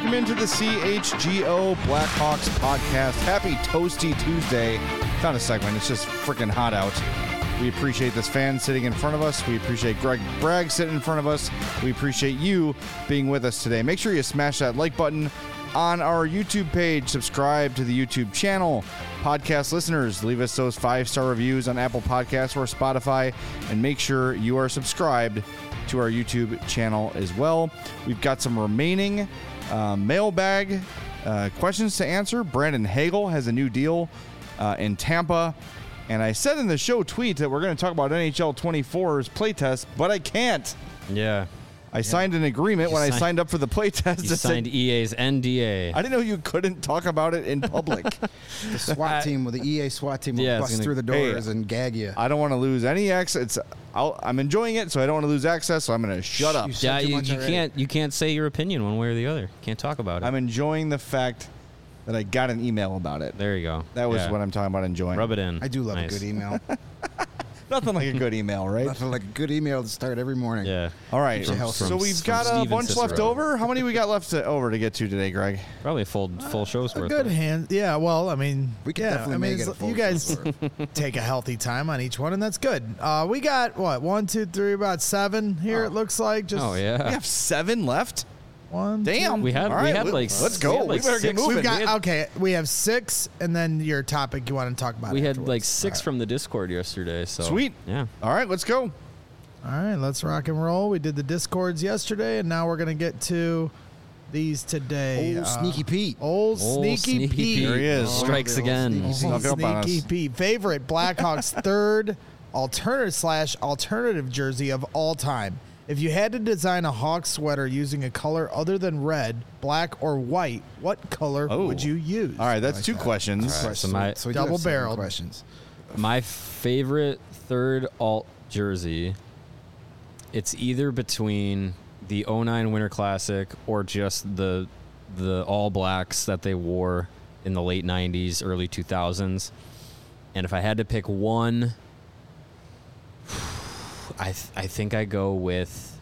welcome into the CHGO Blackhawks podcast. Happy Toasty Tuesday. It's not a segment, it's just freaking hot out. We appreciate this fan sitting in front of us. We appreciate Greg Bragg sitting in front of us. We appreciate you being with us today. Make sure you smash that like button on our YouTube page. Subscribe to the YouTube channel. Podcast listeners, leave us those 5-star reviews on Apple Podcasts or Spotify, and make sure you are subscribed to our YouTube channel as well. We've got some remaining mailbag questions to answer. Brandon Hagel has a new deal in Tampa. And I said in the show tweet that we're going to talk about NHL 24's playtest, but I can't. Yeah. I signed an agreement when I signed up for the playtest. You signed EA's NDA. I didn't know you couldn't talk about it in public. The SWAT team, with the EA SWAT team, will bust through the doors and gag you. I don't want to lose any access. I'm enjoying it, so I don't want to lose access, so I'm going to shut up. Yeah, you can't say your opinion one way or the other. You can't talk about it. I'm enjoying the fact that I got an email about it. There you go. That was what I'm talking about enjoying. Rub it in. I do love a good email. Nothing like a good email, right? Nothing like a good email to start every morning. Yeah. All right. So we've got a bunch left over. How many we got left over to get to today, Greg? Probably a full show's worth. Good hand. Yeah. Well, I mean, we can definitely make it a full you guys take a healthy time on each one, and that's good. We got what 1, 2, 3, about 7 here. It looks like. Oh yeah. We have 7 left. 1, Damn. 2. We had like let's go. We better get moving. We have 6, and then your topic you want to talk about. We had afterwards. like 6 from the Discord yesterday. So sweet. Yeah. All right, let's go. All right, let's rock and roll. We did the Discords yesterday, and now we're gonna get to these today. Old Sneaky Pete. Old Sneaky Pete. There he is. Strikes again. Sneaky Pete. Favorite Blackhawks third alternative jersey of all time. If you had to design a Hawks sweater using a color other than red, black, or white, what color would you use? All right, that's 2 questions. Right, so double-barreled questions. My favorite third alt jersey, it's either between the 09 Winter Classic or just the All Blacks that they wore in the late 90s, early 2000s. And if I had to pick one, I think I go with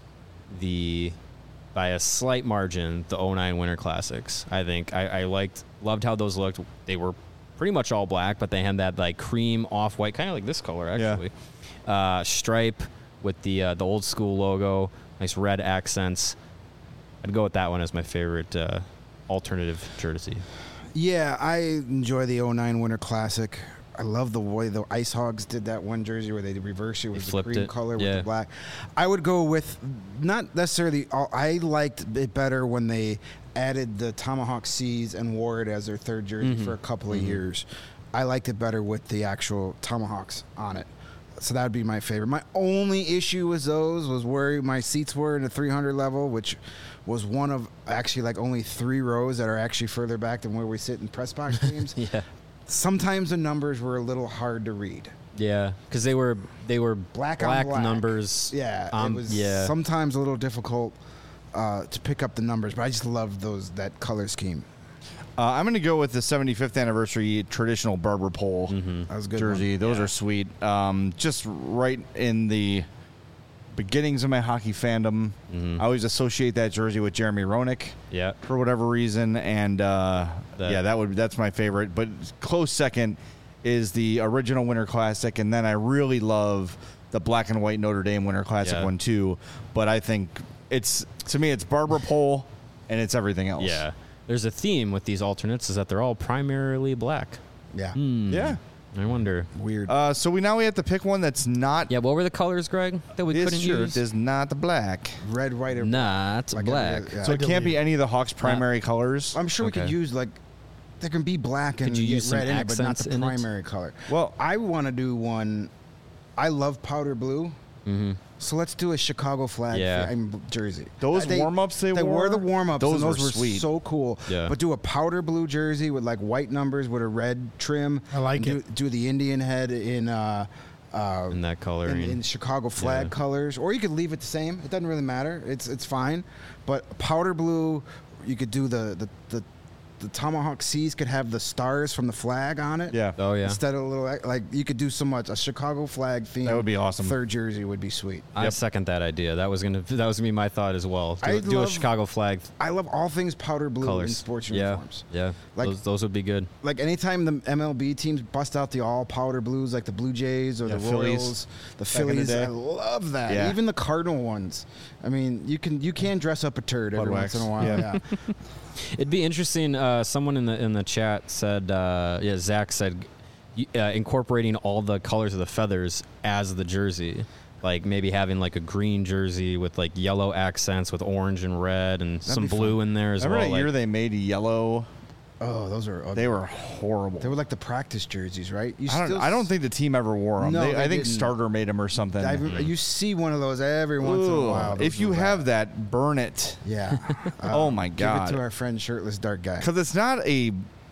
by a slight margin, the 09 Winter Classics. I think I loved how those looked. They were pretty much all black, but they had that like cream off-white, kind of like this color actually. Yeah. Stripe with the old school logo, nice red accents. I'd go with that one as my favorite alternative jersey. Yeah, I enjoy the 09 Winter Classic. I love the way the Ice Hogs did that one jersey where they reversed it with the cream color with the black. I would go with not necessarily. I liked it better when they added the Tomahawk Seas and wore it as their third jersey for a couple of years. I liked it better with the actual Tomahawks on it. So that would be my favorite. My only issue with those was where my seats were in the 300 level, which was one of actually like only 3 rows that are actually further back than where we sit in press box games. Yeah. Sometimes the numbers were a little hard to read. Yeah, because they were black numbers. Yeah, it was sometimes a little difficult to pick up the numbers, but I just love that color scheme. I'm going to go with the 75th anniversary traditional barber pole That was a good jersey. one. Those are sweet. Just right in the beginnings of my hockey fandom. I always associate that jersey with Jeremy Roenick. Yeah. For whatever reason, and that's my favorite. But close second is the original Winter Classic, and then I really love the black and white Notre Dame Winter Classic one too. But I think it's barber pole, and it's everything else. Yeah. There's a theme with these alternates is that they're all primarily black. Yeah. Yeah. I wonder. Weird. So we have to pick one that's not. Yeah, what were the colors, Greg, that we couldn't use? It is not the black. Red, white, or not black. So it can't be any of the Hawks' primary colors. I'm sure we could use there can be black and you use red some in it, but not the accents in it? primary color. Well, I want to do one. I love powder blue. So let's do a Chicago flag jersey. Those warm-ups they wore the warm-ups. Those were sweet. So cool. Yeah. But do a powder blue jersey with like white numbers with a red trim. I like it. Do the Indian head in that color in Chicago flag colors, or you could leave it the same. It doesn't really matter. It's fine. But powder blue, you could do the the Tomahawk Seas could have the stars from the flag on it. Yeah. Oh yeah. Instead of a little, like, you could do so much. A Chicago flag theme. That would be awesome. Third jersey would be sweet. I second that idea. That was gonna be my thought as well. Do a Chicago flag. I love all things powder blue colors. in sports uniforms. Yeah. Like, those would be good. Like anytime the MLB teams bust out the all powder blues, like the Blue Jays or the Royals, the Phillies. I love that. Yeah. Even the Cardinal ones. I mean, you can dress up a turd every once in a while. Yeah. It'd be interesting. Someone in the chat said, Zach said, incorporating all the colors of the feathers as the jersey. Like maybe having like a green jersey with like yellow accents with orange and red and some blue in there as well. Remember that year they made yellow? Oh, those are ugly. They were horrible. They were like the practice jerseys, right? I don't think the team ever wore them. No, I think didn't. Starter made them or something. You see one of those every once in a while. If you have that, burn it. Yeah. Oh my God. Give it to our friend Shirtless Dark Guy. Because it's not a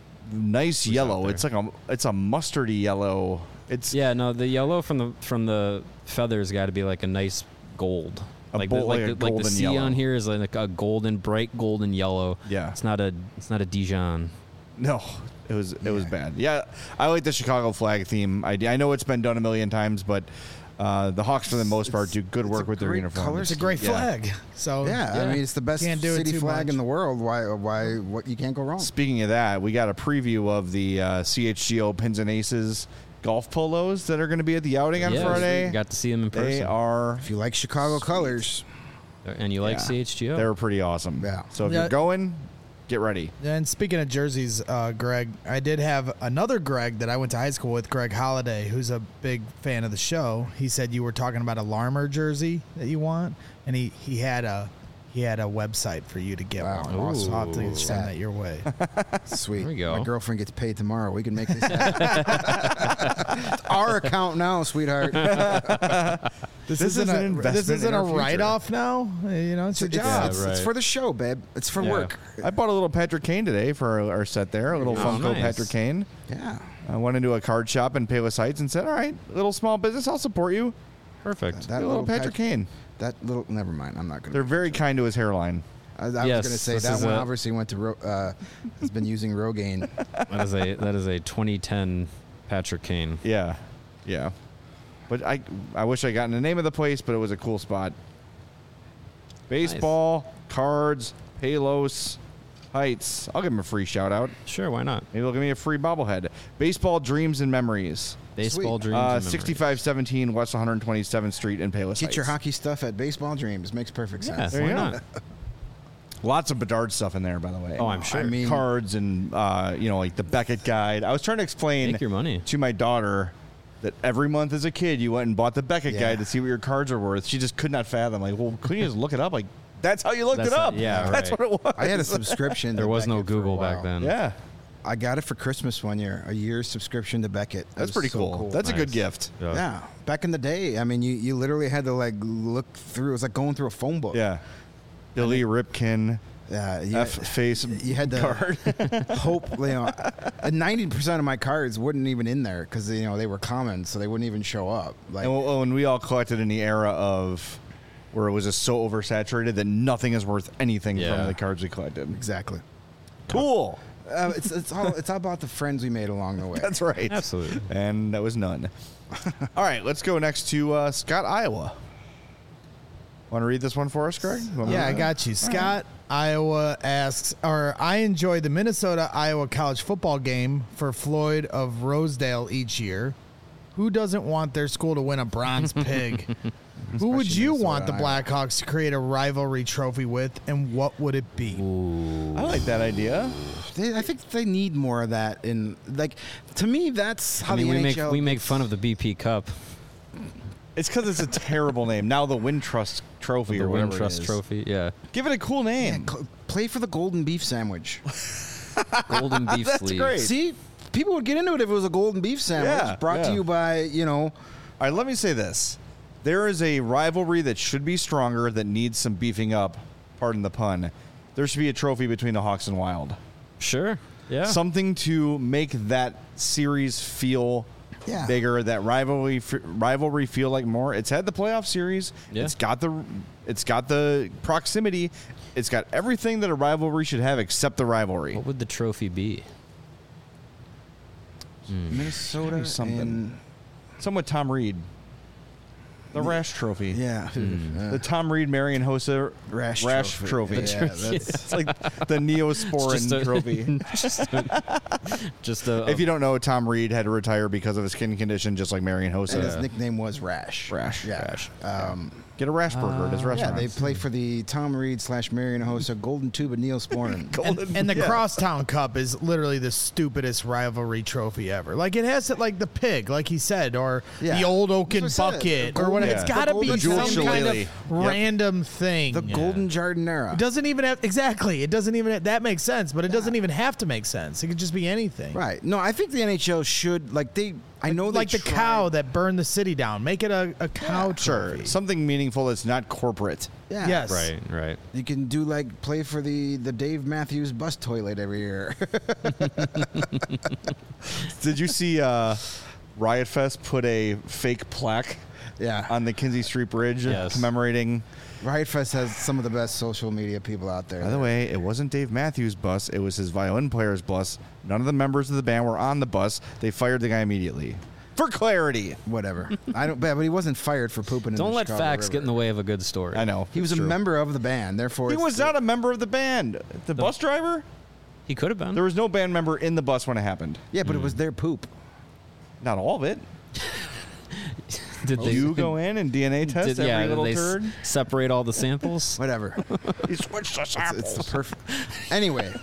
nice yellow. It's like it's a mustardy yellow. It's the yellow from the feathers got to be like a nice gold. Like the C yellow. on here is like a bright golden yellow. Yeah. It's not a Dijon. No, it was bad. Yeah, I like the Chicago flag theme idea. I know it's been done a million times, but the Hawks for the most part do good work with their uniforms. It's a great flag. So I mean, it's the best city flag in the world. Why? What you can't go wrong. Speaking of that, we got a preview of the CHGO Pins and Aces golf polos that are going to be at the outing on Friday. Got to see them in person. They are. If you like Chicago colors, and you like CHGO, they were pretty awesome. Yeah. So if you're going, get ready. And speaking of jerseys, Greg, I did have another Greg that I went to high school with, Greg Holiday, who's a big fan of the show. He said you were talking about a Larmer jersey that you want, and he had a website for you to get one. Awesome. I'll have to send that your way. Sweet. There we go. My girlfriend gets paid tomorrow. We can make this happen. It's our account now, sweetheart. This isn't an investment. This isn't in a our future. write-off now. You know, it's your job. It's for the show, babe. It's for work. I bought a little Patrick Kane today for our set there. A little Funko Patrick Kane. Yeah. I went into a card shop in Palos Heights and said, "All right, little small business, I'll support you." Perfect. That little Patrick Kane. That little. Never mind. I'm not going to. They're very kind to his hairline. I was going to say that one obviously went to has been using Rogaine. That is a 2010 Patrick Kane. Yeah. But I wish I gotten the name of the place, but it was a cool spot. Baseball, cards, Palos Heights. I'll give them a free shout out. Sure, why not? Maybe they'll give me a free bobblehead. Baseball Dreams and Memories. Baseball Dreams and Memories. 6517 West 127th Street in Palos Heights. Get your hockey stuff at Baseball Dreams. Makes perfect sense. Why not? Lots of Bedard stuff in there, by the way. Oh, I'm sure. I mean, cards and like the Beckett guide. I was trying to explain Make your money. to my daughter that every month as a kid you went and bought the Beckett guide to see what your cards are worth. She just could not fathom. Like, well, couldn't you just look it up? Like, that's how you looked it up. That's what it was. I had a subscription. There was no Beckett Google back then. Yeah. I got it for Christmas one year, a year's subscription to Beckett. That's pretty cool. That's a good gift. Yeah. Back in the day, I mean, you literally had to like look through. It was like going through a phone book. Yeah. Billy Ripken. Yeah, face. You had to card. hope. 90% of my cards wouldn't even in there because they were common, so they wouldn't even show up. Like, and we all collected in the era of where it was just so oversaturated that nothing is worth anything from the cards we collected. Exactly. Cool. It's all about the friends we made along the way. That's right. Absolutely. And that was none. All right, let's go next to Scott, Iowa. Want to read this one for us, Greg? Yeah, I got you. Scott, Iowa asks, I enjoy the Minnesota-Iowa college football game for Floyd of Rosedale each year. Who doesn't want their school to win a bronze pig? Who would you want the Blackhawks to create a rivalry trophy with, and what would it be? Ooh. I like that idea. I think they need more of that. To me, that's how the NHL we make fun of the BP Cup. It's because it's a terrible name. Now the Wintrust Trophy or whatever Wintrust it is. Trophy, yeah. Give it a cool name. Yeah, play for the golden beef sandwich. Golden beef That's sleeves. great. See, people would get into it if it was a golden beef sandwich brought to you by, All right, let me say this. There is a rivalry that should be stronger that needs some beefing up. Pardon the pun. There should be a trophy between the Hawks and Wild. Sure, yeah. Something to make that series feel bigger. That rivalry feel like more. It's had the playoff series. Yeah. It's got the proximity. It's got everything that a rivalry should have except the rivalry. What would the trophy be? Minnesota something. Somewhat Tom Reed. The Rash Trophy. Yeah. The Tom Reed Marion Hossa Rash Trophy. Yeah, it's like the Neosporin Trophy. If you don't know, Tom Reed had to retire because of a skin condition, just like Marion Hossa. And his nickname was Rash. Rash. Yeah. Rash. Get a Rash burger at his restaurant. Yeah, they play for the Tom Reed / Marion Hossa Golden Tube of Neosporin. and the Crosstown Cup is literally the stupidest rivalry trophy ever. Like, it has like the pig, like he said, or the old Oaken bucket, or whatever. It's got to be some kind of random thing. The Golden Jardinera. It doesn't even have, exactly. It doesn't even, that makes sense, but it doesn't even have to make sense. It could just be anything. Right. No, I think the NHL should, I know like the cow that burned the city down. Make it a cow trophy. Sure. Something meaningful that's not corporate. Yeah. Yes. Right. You can do play for the Dave Matthews bus toilet every year. Did you see Riot Fest put a fake plaque on the Kinsey Street Bridge commemorating... Riot Fest has some of the best social media people out there. By the way, it wasn't Dave Matthews' bus. It was his violin player's bus. None of the members of the band were on the bus. They fired the guy immediately. For clarity. Whatever. But he wasn't fired for pooping in the Don't let Chicago facts River. get in the way of a good story. I know. He was a member of the band. Therefore, he was not a member of the band. The bus driver? He could have been. There was no band member in the bus when it happened. Yeah, but it was their poop. Not all of it. Did you go in and DNA test every little turd? Separate all the samples? Whatever. He switched the samples. It's perfect. Anyway.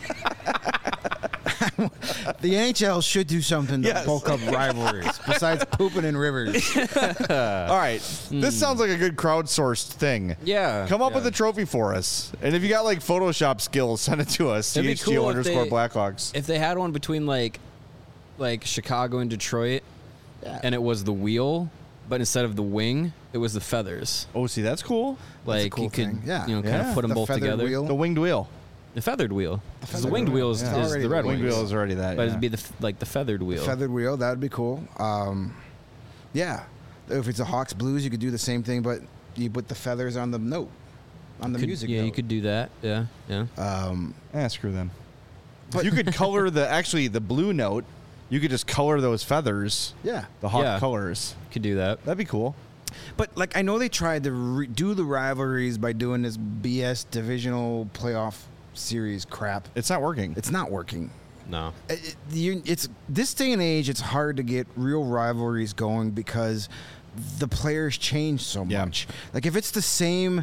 The NHL should do something to bulk up rivalries besides pooping in rivers. All right. This sounds like a good crowdsourced thing. Yeah. Come up with a trophy for us. And if you got Photoshop skills, send it to us. It'd be cool CHGO_Blackhawks. If they had one between like Chicago and Detroit and it was the wheel, but instead of the wing, it was the feathers. Oh, see, that's cool. Like cool you could, kind of put them both together. Wheel. The winged wheel. The feathered wheel. The winged wheel is the red winged wheel is already that. But it'd be the feathered wheel. Feathered wheel, that would be cool. Yeah. If it's a Hawks Blues, you could do the same thing, but you put the feathers on the note, on the music Yeah, note. you could do that. Yeah. Screw them. But you could color the blue note. You could just color those feathers. Yeah. The Hawk colors. Could do that. That'd be cool. But I know they tried to do the rivalries by doing this BS divisional playoff series crap. It's not working. It's not working. No. It's this day and age. It's hard to get real rivalries going because the players change so much. Like if it's the same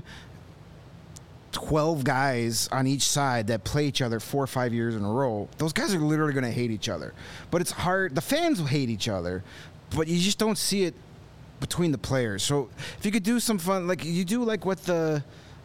12 guys on each side that play each other 4 or 5 years in a row, those guys are literally going to hate each other. But it's hard. The fans will hate each other, but you just don't see it between the players. So if you could do some fun, like you do like what the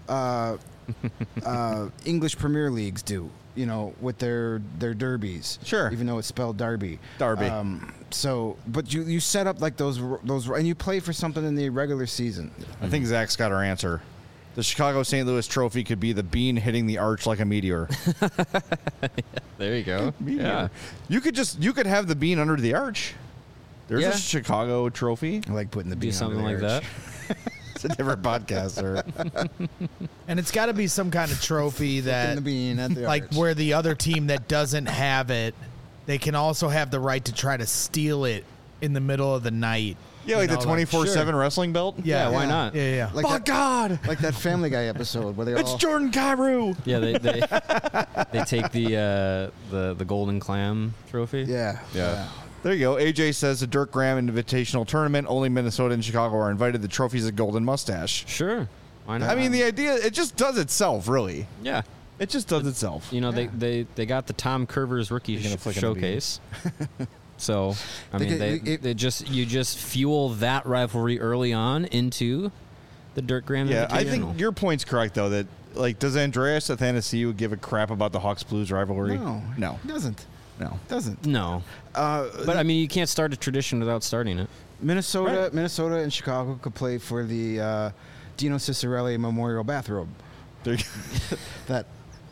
English Premier Leagues do, with their derbies. Sure. Even though it's spelled Derby. Derby. But you set up like those, and you play for something in the regular season. I think Zach's got our answer. The Chicago St. Louis Trophy could be the bean hitting the arch like a meteor. There you go. Yeah. You could have the bean under the arch. There's a Chicago trophy. I like putting the bean something under the like arch. that. It's a different podcast, sir. And it's got to be some kind of trophy that, the bean at the like, arch. where the other team that doesn't have it, they can also have the right to try to steal it in the middle of the night. Yeah, like the 24/7 wrestling belt. Yeah, why not? Yeah. Like Oh, God! Like that Family Guy episode where they It's all... Jordan Carew. Yeah, they take the golden clam trophy. Yeah. There you go. AJ says the Dirk Graham Invitational Tournament. Only Minnesota and Chicago are invited. The trophy's a golden mustache. Sure. Why not? I mean, the idea, it just does itself, really. Yeah. It just does itself. They got the Tom Curvers rookie showcase. So, I mean, you just fuel that rivalry early on into the Dirk Graham Invitational. I think your point's correct, though, that, does Andreas Athanasiou give a crap about the Hawks Blues rivalry? No. He doesn't. No. Doesn't. No. But, I mean, you can't start a tradition without starting it. Minnesota and Chicago could play for the Dino Ciccarelli Memorial Bathrobe. There you That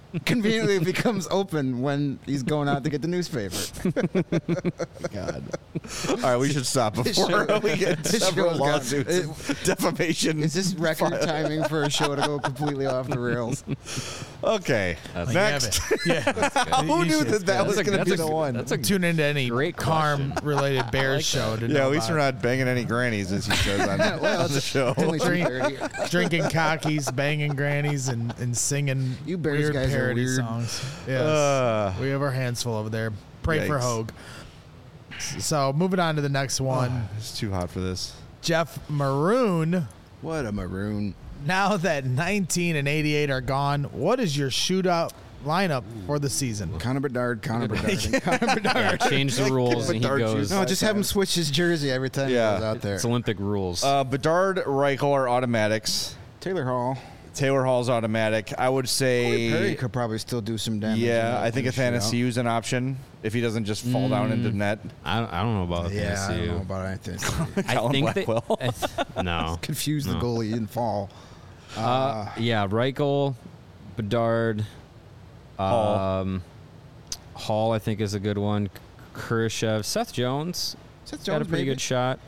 conveniently becomes open when he's going out to get the newspaper. God. All right, we should stop before we get several lawsuits. Defamation. Is this record timing for a show to go completely off the rails? Okay. Next. Yeah. Who knew that was going to be the one? That's a Tune into any great Carm-related Bears show. To yeah, know at least about we're it. not banging any grannies, as he says on the show. Only 2:30. Drinking cockies, banging grannies, and singing You Bears weird guys are parody weird. songs. Yes. We have our hands full over there. Pray for Yikes. Hogue. So moving on to the next one. It's too hot for this. Jeff Maroon. What a maroon. Now that 19 and 88 are gone, what is your shootout lineup for the season? Connor Bedard, and Connor Bedard. Yeah, change the rules and he Bedard goes. chooses. No, just have him switch his jersey every time he goes out there. It's Olympic rules. Bedard, Reichel are automatics. Taylor Hall. Taylor Hall's automatic. I would say. Perry could probably still do some damage. Yeah, I think Athanasiou is an option if he doesn't just fall down into net. I don't know about Yeah, I don't know Athanasiou. about anything. I Colin think Blackwell. no. Confused the goalie, he didn't fall. Yeah, Reichel, Bedard, Hall. Hall I think is a good one. Kurashev, Seth Jones. Seth Got a Jones, pretty maybe. good shot.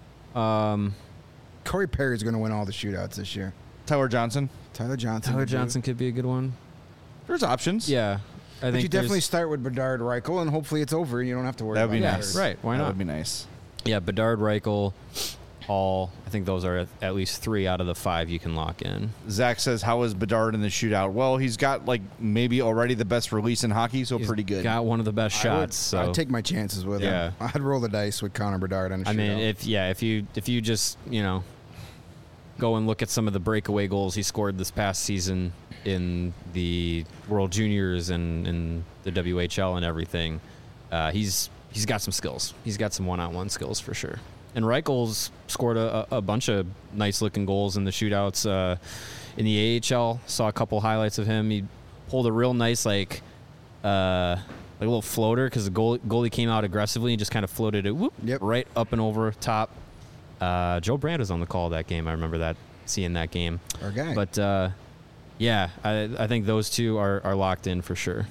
Corey Perry's going to win all the shootouts this year. Tyler Johnson. Tyler Johnson. Tyler could do it. Johnson could be a good one. There's options. Yeah. I But think you definitely there's- start with Bedard, Reichel, and hopefully it's over and you don't have to worry That would about be it. nice. Right, why That not? would be nice. Yeah, Bedard, Reichel, Hall. I think those are at least 3 out of the 5 you can lock in. Zach says, how is Bedard in the shootout? Well, he's got like maybe already the best release in hockey, so He's pretty good. Got one of the best shots. So I'd take my chances with him. Yeah. I'd roll the dice with Connor Bedard on a shootout. I mean, if you just go and look at some of the breakaway goals he scored this past season in the World Juniors and in the WHL and everything, he's got some skills. He's got some one-on-one skills for sure. And Reichel's scored a bunch of nice-looking goals in the shootouts. In the AHL, saw a couple highlights of him. He pulled a real nice like a little floater because the goalie came out aggressively and just kind of floated it right up and over top. Joe Brandt was on the call that game. I remember seeing that game. Our guy. But yeah, I think those two are locked in for sure.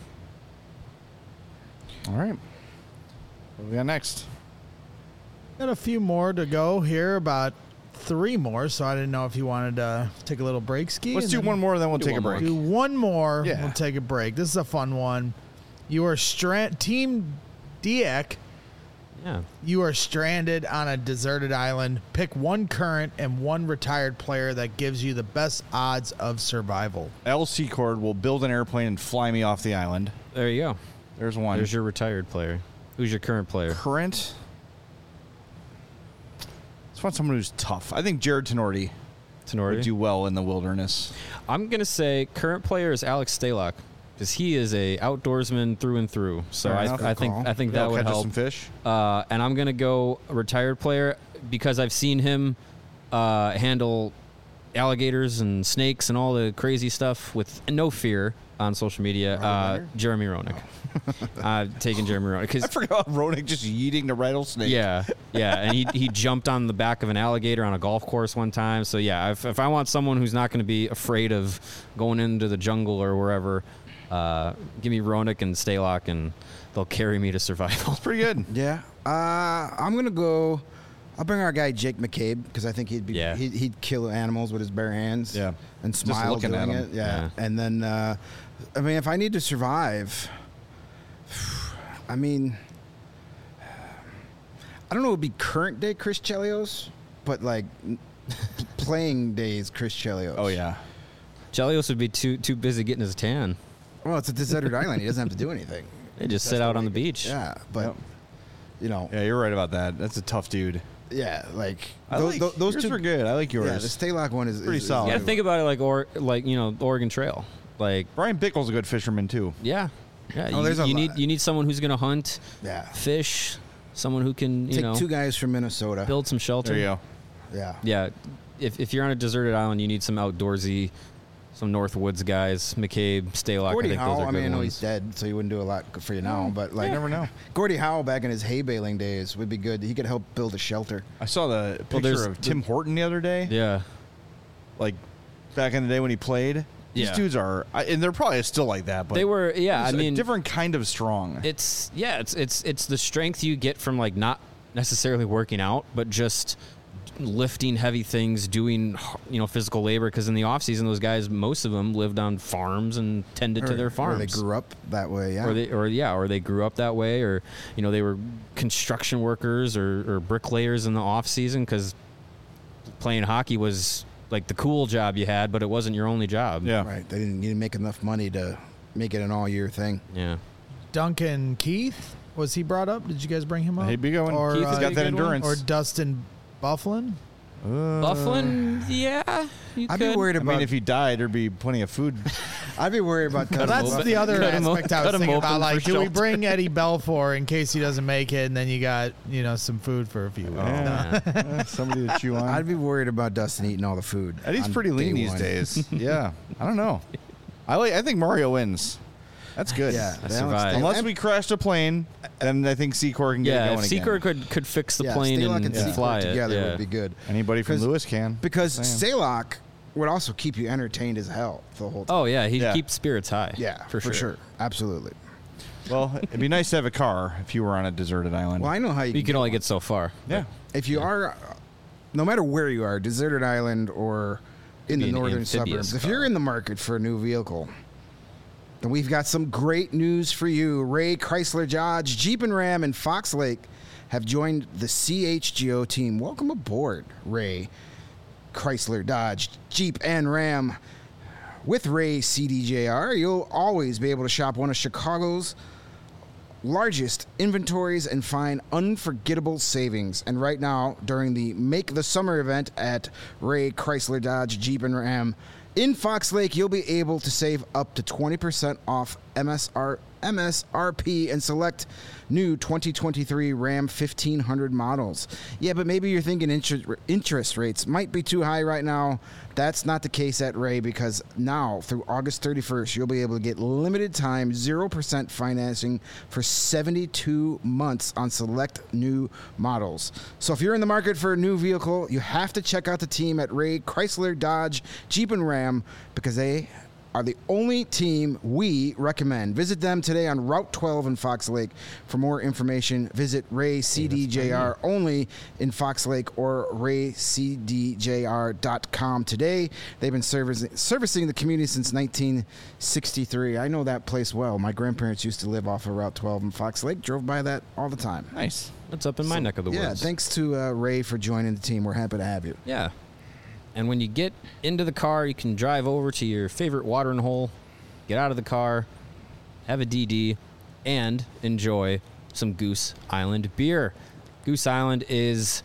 All right. What do we got next? Got a few more to go here, about 3 more, so I didn't know if you wanted to take a little break, Ski. Let's do one more, then we'll take a break. Do one more, Yeah. we'll take a break. This is a fun one. You are Team Diak. Yeah. You are stranded on a deserted island. Pick one current and one retired player that gives you the best odds of survival. L. Secord will build an airplane and fly me off the island. There you go. There's one. There's your retired player. Who's your current player? Current. Let's find someone who's tough. I think Jared Tenorti would do well in the wilderness. I'm gonna say current player is Alex Stalock because he is a outdoorsman through and through. So Fair enough. I think that He'll would catch us help. some fish. And I'm gonna go a retired player because I've seen him handle alligators and snakes and all the crazy stuff with no fear on social media. Jeremy Roenick. Taking Jeremy Roenick. I forgot Roenick just yeeting the rattlesnake. Yeah, and he jumped on the back of an alligator on a golf course one time. So yeah, if I want someone who's not going to be afraid of going into the jungle or wherever, give me Roenick and Stalock, and they'll carry me to survival. Pretty good. Yeah. I'm going to go. I'll bring our guy Jake McCabe because I think he'd kill animals with his bare hands. Yeah. And Just smile looking doing at him. it. Yeah. And then, I mean, if I need to survive, I mean, I don't know. It would be current day Chris Chelios, but like playing days Chris Chelios. Oh yeah. Chelios would be too busy getting his tan. Well, it's a deserted island. He doesn't have to do anything. They just sit out on the beach. Yeah, but Yep. you know, Yeah, you're right about that. That's a tough dude. yeah, like Those those two were good. I like yours. Yeah, the Stalock one is Pretty solid. You gotta think about it like the Oregon Trail. Like Brian Bickle's a good fisherman too. yeah. Oh, there's a you lot. need someone who's gonna hunt, Yeah. fish, someone who can Take 2 guys from Minnesota. build some shelter. There you go. Yeah. Yeah, if you're on a deserted island, you need some outdoorsy, some North Woods guys. McCabe, Stalock. Gordie I think those Howe, are I good mean, I know ones. he's dead, so he wouldn't do a lot for you now. But like, You never know. Gordie Howe back in his hay baling days would be good. He could help build a shelter. I saw the Well, picture of Tim Horton the other day. Yeah, Like back in the day when he played. These dudes are, and they're probably still like that. But they were, I mean, a different kind of strong. It's the strength you get from like not necessarily working out, but just lifting heavy things, doing physical labor. Because in the off season, those guys, most of them lived on farms and tended to their farms. Or they grew up that way, or they grew up that way, or they were construction workers or bricklayers in the off season because playing hockey was like the cool job you had, but it wasn't your only job. Yeah, right. They didn't make enough money to make it an all-year thing. Yeah. Duncan Keith, was he brought up? Did you guys bring him up? Hey, big one. Or, Keith has got that endurance. Or Dustin Byfuglien? Byfuglien, yeah. I'd be worried about. I mean, if he died, there'd be plenty of food. I'd be worried about. That's the other aspect I was thinking about. Like, do we bring Eddie Belfour in case he doesn't make it, and then you got some food for a few weeks? Somebody to chew on. I'd be worried about Dustin eating all the food. Eddie's pretty lean these days. Yeah, I don't know. I think Mario wins. That's good. Yeah, unless we crashed a plane, then I think Secor can get it going again. Secor could fix the plane and fly it. Together would be good. Anybody from Lewis can. Because Stalock would also keep you entertained as hell the whole time. Oh, yeah. He keeps spirits high. Yeah, for sure. Absolutely. Well, it'd be nice to have a car if you were on a deserted island. Well, I know how you can only get so far. Yeah. If you are, no matter where you are, deserted island or in the northern suburbs, if you're in the market for a new vehicle, then we've got some great news for you. Ray Chrysler Dodge, Jeep and Ram in Fox Lake have joined the CHGO team. Welcome aboard, Ray Chrysler Dodge, Jeep and Ram. With Ray CDJR, you'll always be able to shop one of Chicago's largest inventories and find unforgettable savings. And right now, during the Make the Summer event at Ray Chrysler Dodge, Jeep and Ram in Fox Lake, you'll be able to save up to 20% off MSRP and select new 2023 Ram 1500 models. Yeah, but maybe you're thinking interest rates might be too high right now. That's not the case at Ray, because now through August 31st, you'll be able to get limited time 0% financing for 72 months on select new models. So if you're in the market for a new vehicle, you have to check out the team at Ray Chrysler Dodge Jeep and Ram, because they are the only team we recommend. Visit them today on Route 12 in Fox Lake. For more information, visit Ray CDJR only in Fox Lake or raycdjr.com today. They've been servicing the community since 1963. I know that place well. My grandparents used to live off of Route 12 in Fox Lake. Drove by that all the time. Nice. That's up in my neck of the woods. Yeah, thanks to Ray for joining the team. We're happy to have you. Yeah. And when you get into the car, you can drive over to your favorite watering hole, get out of the car, have a DD, and enjoy some Goose Island beer. Goose Island has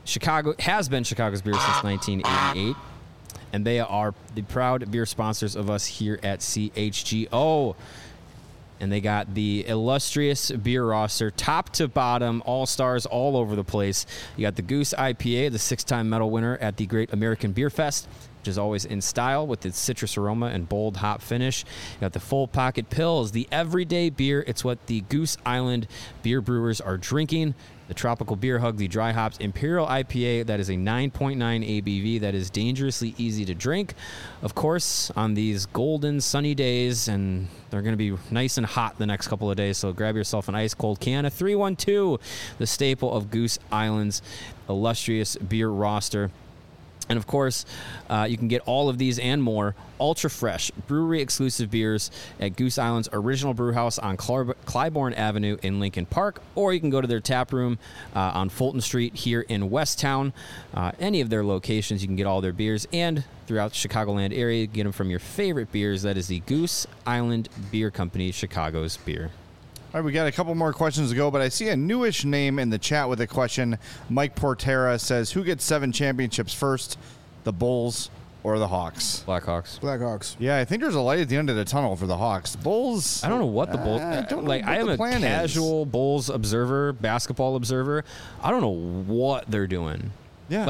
been Chicago's beer since 1988, and they are the proud beer sponsors of us here at CHGO. And they got the illustrious beer roster, top to bottom, all-stars all over the place. You got the Goose IPA, the 6-time medal winner at the Great American Beer Fest, which is always in style with its citrus aroma and bold hop finish. You got the Full Pocket Pils, the everyday beer. It's what the Goose Island beer brewers are drinking. The Tropical Beer Hug, the dry hops Imperial IPA, that is a 9.9 ABV that is dangerously easy to drink. Of course, on these golden sunny days, and they're going to be nice and hot the next couple of days, so grab yourself an ice cold can of 312, the staple of Goose Island's illustrious beer roster. And of course, you can get all of these and more ultra fresh brewery exclusive beers at Goose Island's original brew house on Clybourne Avenue in Lincoln Park, or you can go to their tap room on Fulton Street here in Westtown. Any of their locations, you can get all their beers, and throughout the Chicagoland area, get them from your favorite beers. That is the Goose Island Beer Company, Chicago's beer. All right, we got a couple more questions to go, but I see a newish name in the chat with a question. Mike Portera says, who gets 7 championships first, the Bulls or the Hawks? Blackhawks. Yeah, I think there's a light at the end of the tunnel for the Hawks. Bulls. I don't know what the Bulls. I don't know. I am a casual Bulls observer, basketball observer. I don't know what they're doing. Yeah.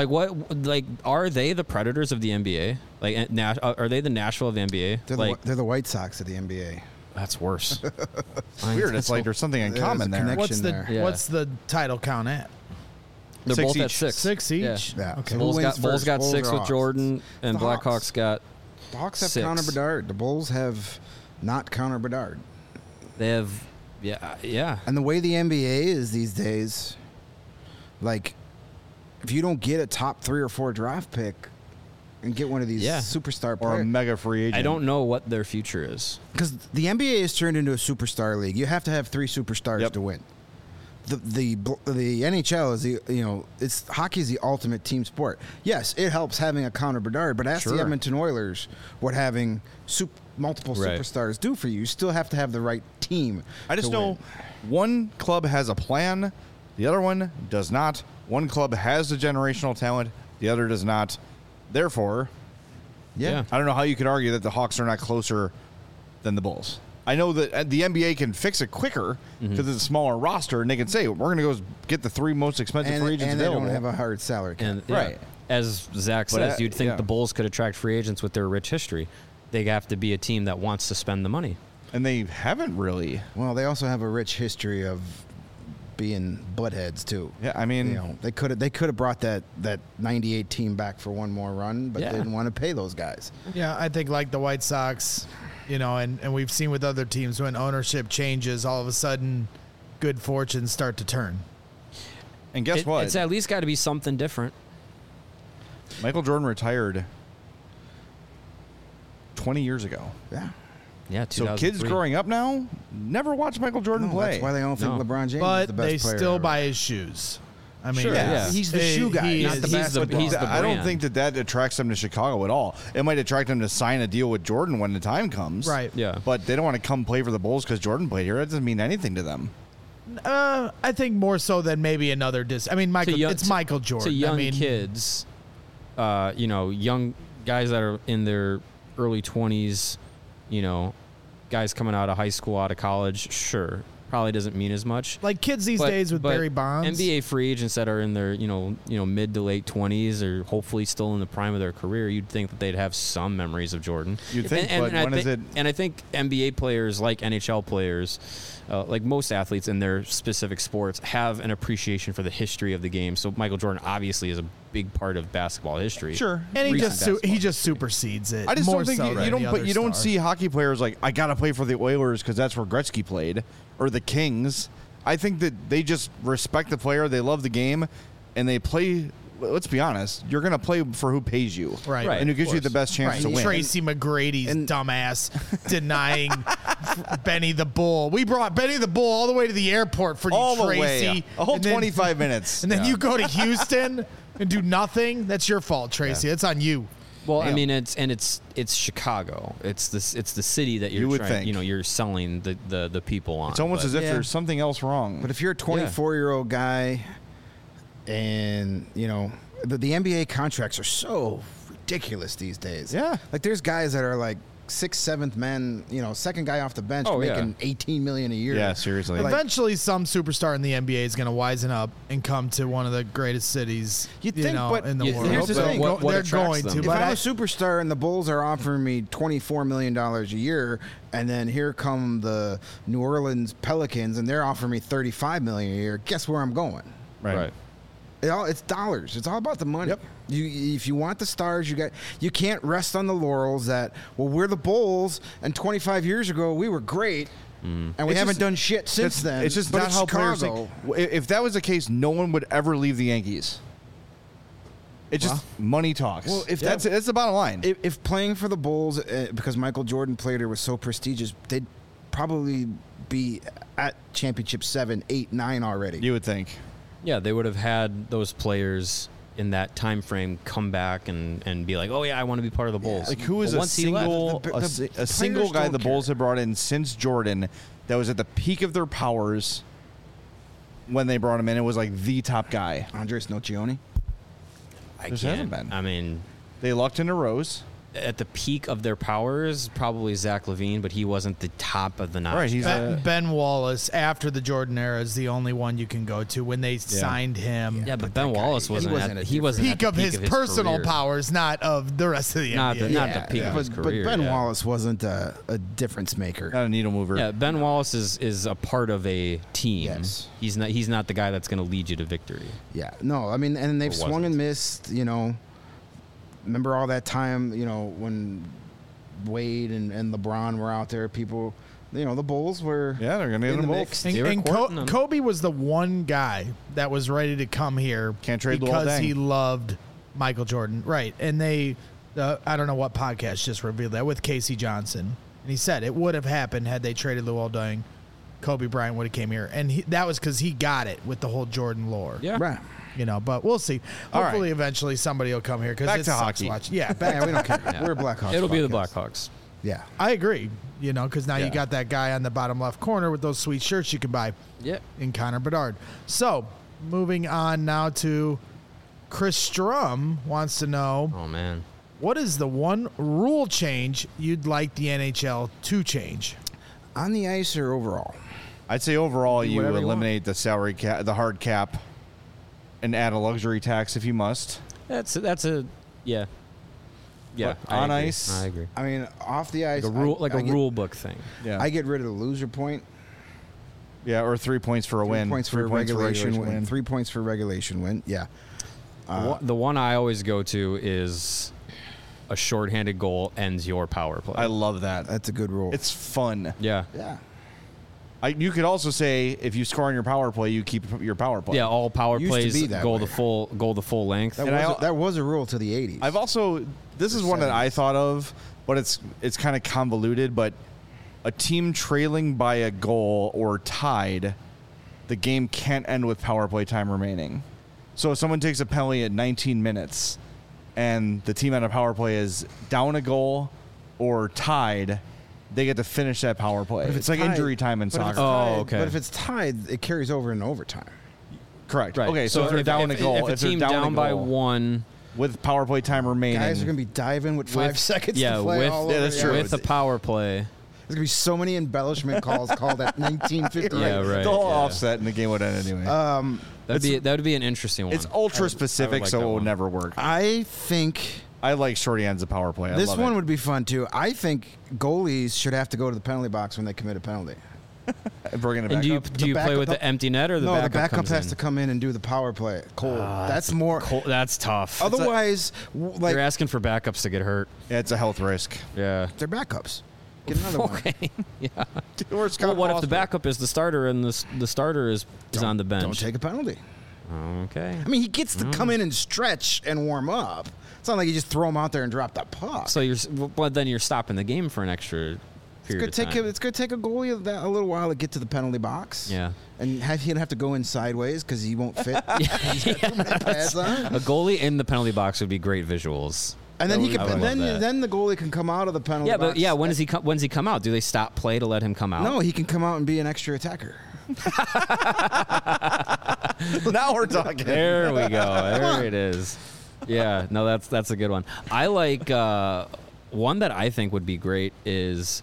Are they the Predators of the NBA? Are they the Nashville of the NBA? They're the White Sox of the NBA. That's worse. Weird. It's like there's something in common there. What's the title count at? They're 6 both each. at 6. 6 each? Yeah. Okay. Bulls got 6 with Hawks? Jordan, and The Blackhawks Hawks. got The Hawks have 6. Connor Bedard. The Bulls have not Connor Bedard. They have, yeah. And the way the NBA is these days, like, if you don't get a top 3 or 4 draft pick and get one of these superstar players. Or a mega free agent. I don't know what their future is. Because the NBA has turned into a superstar league. You have to have 3 superstars to win. The NHL is hockey is the ultimate team sport. Yes, it helps having a Connor Bedard, but ask the Edmonton Oilers what having multiple superstars do for you. You still have to have the right team. I just know one club has a plan, the other one does not. One club has the generational talent, the other does not. Therefore, I don't know how you could argue that the Hawks are not closer than the Bulls. I know that the NBA can fix it quicker because it's a smaller roster, and they can say, we're going to go get the 3 most expensive free agents available. And they don't have a hard salary cap. And, right. As Zach says, you'd think the Bulls could attract free agents with their rich history. They have to be a team that wants to spend the money. And they haven't really. Well, they also have a rich history of being buttheads too. Yeah, I mean, they could have brought that 98 team back for one more run, but they didn't want to pay those guys. Yeah, I think like the White Sox, and we've seen with other teams when ownership changes, all of a sudden good fortunes start to turn. And guess what? It's at least got to be something different. Michael Jordan retired 20 years ago. Yeah, so kids growing up now never watch Michael Jordan play. That's why they don't think LeBron James is the best player. But they still buy his shoes. I mean, he's the shoe guy, not the basketball. He's the I don't think that attracts them to Chicago at all. It might attract them to sign a deal with Jordan when the time comes. Right. Yeah. But they don't want to come play for the Bulls because Jordan played here. That doesn't mean anything to them. I think more so than maybe another I mean, it's Michael Jordan. To young kids, young guys that are in their early 20s, guys coming out of high school, out of college, sure, probably doesn't mean as much. Like kids these days with Barry Bonds. NBA free agents that are in their, mid to late 20s or hopefully still in the prime of their career, you'd think that they'd have some memories of Jordan. You'd think, but when is it? And I think NBA players, like NHL players, like most athletes in their specific sports, have an appreciation for the history of the game. So Michael Jordan obviously is a big part of basketball history. Sure, and he just supersedes it. I just don't think you don't star. see hockey players like, I gotta play for the Oilers because that's where Gretzky played, or the Kings. I think that they just respect the player, they love the game, and they play. Let's be honest, you're going to play for who pays you. Right. And who gives you the best chance to win. Tracy McGrady's dumbass denying Benny the Bull. We brought Benny the Bull all the way to the airport for all you, Tracy. The way. A whole 25 minutes. And then you go to Houston and do nothing. That's your fault, Tracy. That's on you. Well, I mean, it's Chicago. It's the city that you're selling the people on. It's almost as if there's something else wrong. But if you're a 24-year-old guy, and the NBA contracts are so ridiculous these days. Yeah, like there's guys that are like 6th, 7th men, second guy off the bench making $18 million a year. Yeah, seriously. Eventually, some superstar in the NBA is going to wisen up and come to one of the greatest cities in the world. Here's the thing. They're going to. If I'm a superstar and the Bulls are offering me $24 million a year, and then here come the New Orleans Pelicans and they're offering me $35 million a year, guess where I'm going? Right. It's dollars. It's all about the money. Yep. If you want the stars, you can't rest on the laurels that, we're the Bulls, and 25 years ago we were great, and we haven't done shit since then. It's just not how players think. If that was the case, no one would ever leave the Yankees. It's just money talks. Well, if that's the bottom line. If playing for the Bulls, because Michael Jordan played here, was so prestigious, they'd probably be at championship 7, 8, 9 already. You would think. Yeah, they would have had those players in that time frame come back and be like, oh yeah, I want to be part of the Bulls. Like who is a single guy the Bulls have brought in since Jordan that was at the peak of their powers when they brought him in? It was like the top guy. Andres Nocioni. Hasn't been. I mean, they lucked into Rose. At the peak of their powers, probably Zach LaVine, but he wasn't the top of the notch. Right, he's Ben Wallace after the Jordan era is the only one you can go to when they signed him. Yeah, but Ben Wallace wasn't at the peak of his personal powers, not of the rest of the NBA. Not the peak of his career. But Ben Wallace wasn't a difference maker. Not a needle mover. Yeah, Ben Wallace is a part of a team. Yes. He's not the guy that's going to lead you to victory. Yeah, no, I mean, and they've swung and missed, Remember all that time, when Wade and LeBron were out there. People, the Bulls were. Yeah, they're going to get them both. And Kobe was the one guy that was ready to come here. Can't trade because he loved Michael Jordan, right? And I don't know what podcast just revealed that with Casey Johnson, and he said it would have happened had they traded Luol Deng. Kobe Bryant would have came here, and that was because he got it with the whole Jordan lore. Yeah, right. But we'll see. Hopefully, eventually somebody will come here because back to hockey. Yeah, we don't care. Yeah. We're Blackhawks. It'll be the podcast. Blackhawks. Yeah, I agree. Because now you got that guy on the bottom left corner with those sweet shirts you can buy. Yep. In Connor Bedard. So, moving on now to Chris Strum wants to know. Oh man, what is the one rule change you'd like the NHL to change? On the ice or overall? I'd say overall you Whatever you eliminate the salary cap, the hard cap, and add a luxury tax if you must. that's a yeah. Yeah, on ice, I agree. I mean, off the ice, Like a rule book thing. Yeah, I get rid of the loser point. Yeah, or 3 points for a win. 3 points for a regulation win. 3 points for regulation win. Yeah. The one I always go to is a shorthanded goal ends your power play. I love that. That's a good rule. It's fun. Yeah. Yeah. You could also say if you score on your power play, you keep your power play. Yeah, all power Used to plays be that go way. the full length. That was a rule to the 80s. I've also this is one that I thought of, but it's kind of convoluted. But a team trailing by a goal or tied, the game can't end with power play time remaining. So if someone takes a penalty at 19 minutes, and the team on a power play is down a goal or tied, they get to finish that power play. But if It's like tied- injury time in but if soccer. it's tied- Oh, okay. But if it's tied, it carries over in overtime. Correct. Right. Okay, so if they're down a goal, if a team they're down a by goal one with power play time remaining, Guys are going to be diving with 5 seconds to play with, all over. that's true. with the power play. There's going to be so many embellishment calls called at 1950. Yeah, right. the whole yeah. offset and the game would end anyway. That would be an interesting one. It's ultra specific, like so that it will one. never work. I think I like shorty ends of power play. I this love one it. would be fun too. I think goalies should have to go to the penalty box when they commit a penalty. Bringing it And back do you up. do you play with backup- the empty net or the No, backup? the backup comes has in? to come in and do the power play. Cold. That's more. That's tough. Otherwise, like You're asking for backups to get hurt. Yeah, it's a health risk. Yeah. they're backups. Get another one. Okay. Yeah. Or Scott Well, what if the Foster. backup is the starter and the starter is on the bench? Don't take a penalty. Okay. I mean, he gets to come in and stretch and warm up. It's not like you just throw him out there and drop that puck. So then you're stopping the game for an extra period of time. It's going to take a goalie a little while to get to the penalty box. Yeah. And he'd have to go in sideways because he won't fit. He's got too many pads on. A goalie in the penalty box would be great visuals. And then he I can. would And love that. then the goalie can come out of the penalty Yeah, box. but yeah, when does he come? When's he come out? Do they stop play to let him come out? No, he can come out and be an extra attacker. Now we're talking. There we go. There it is. Yeah, no, that's a good one. I like one that I think would be great is,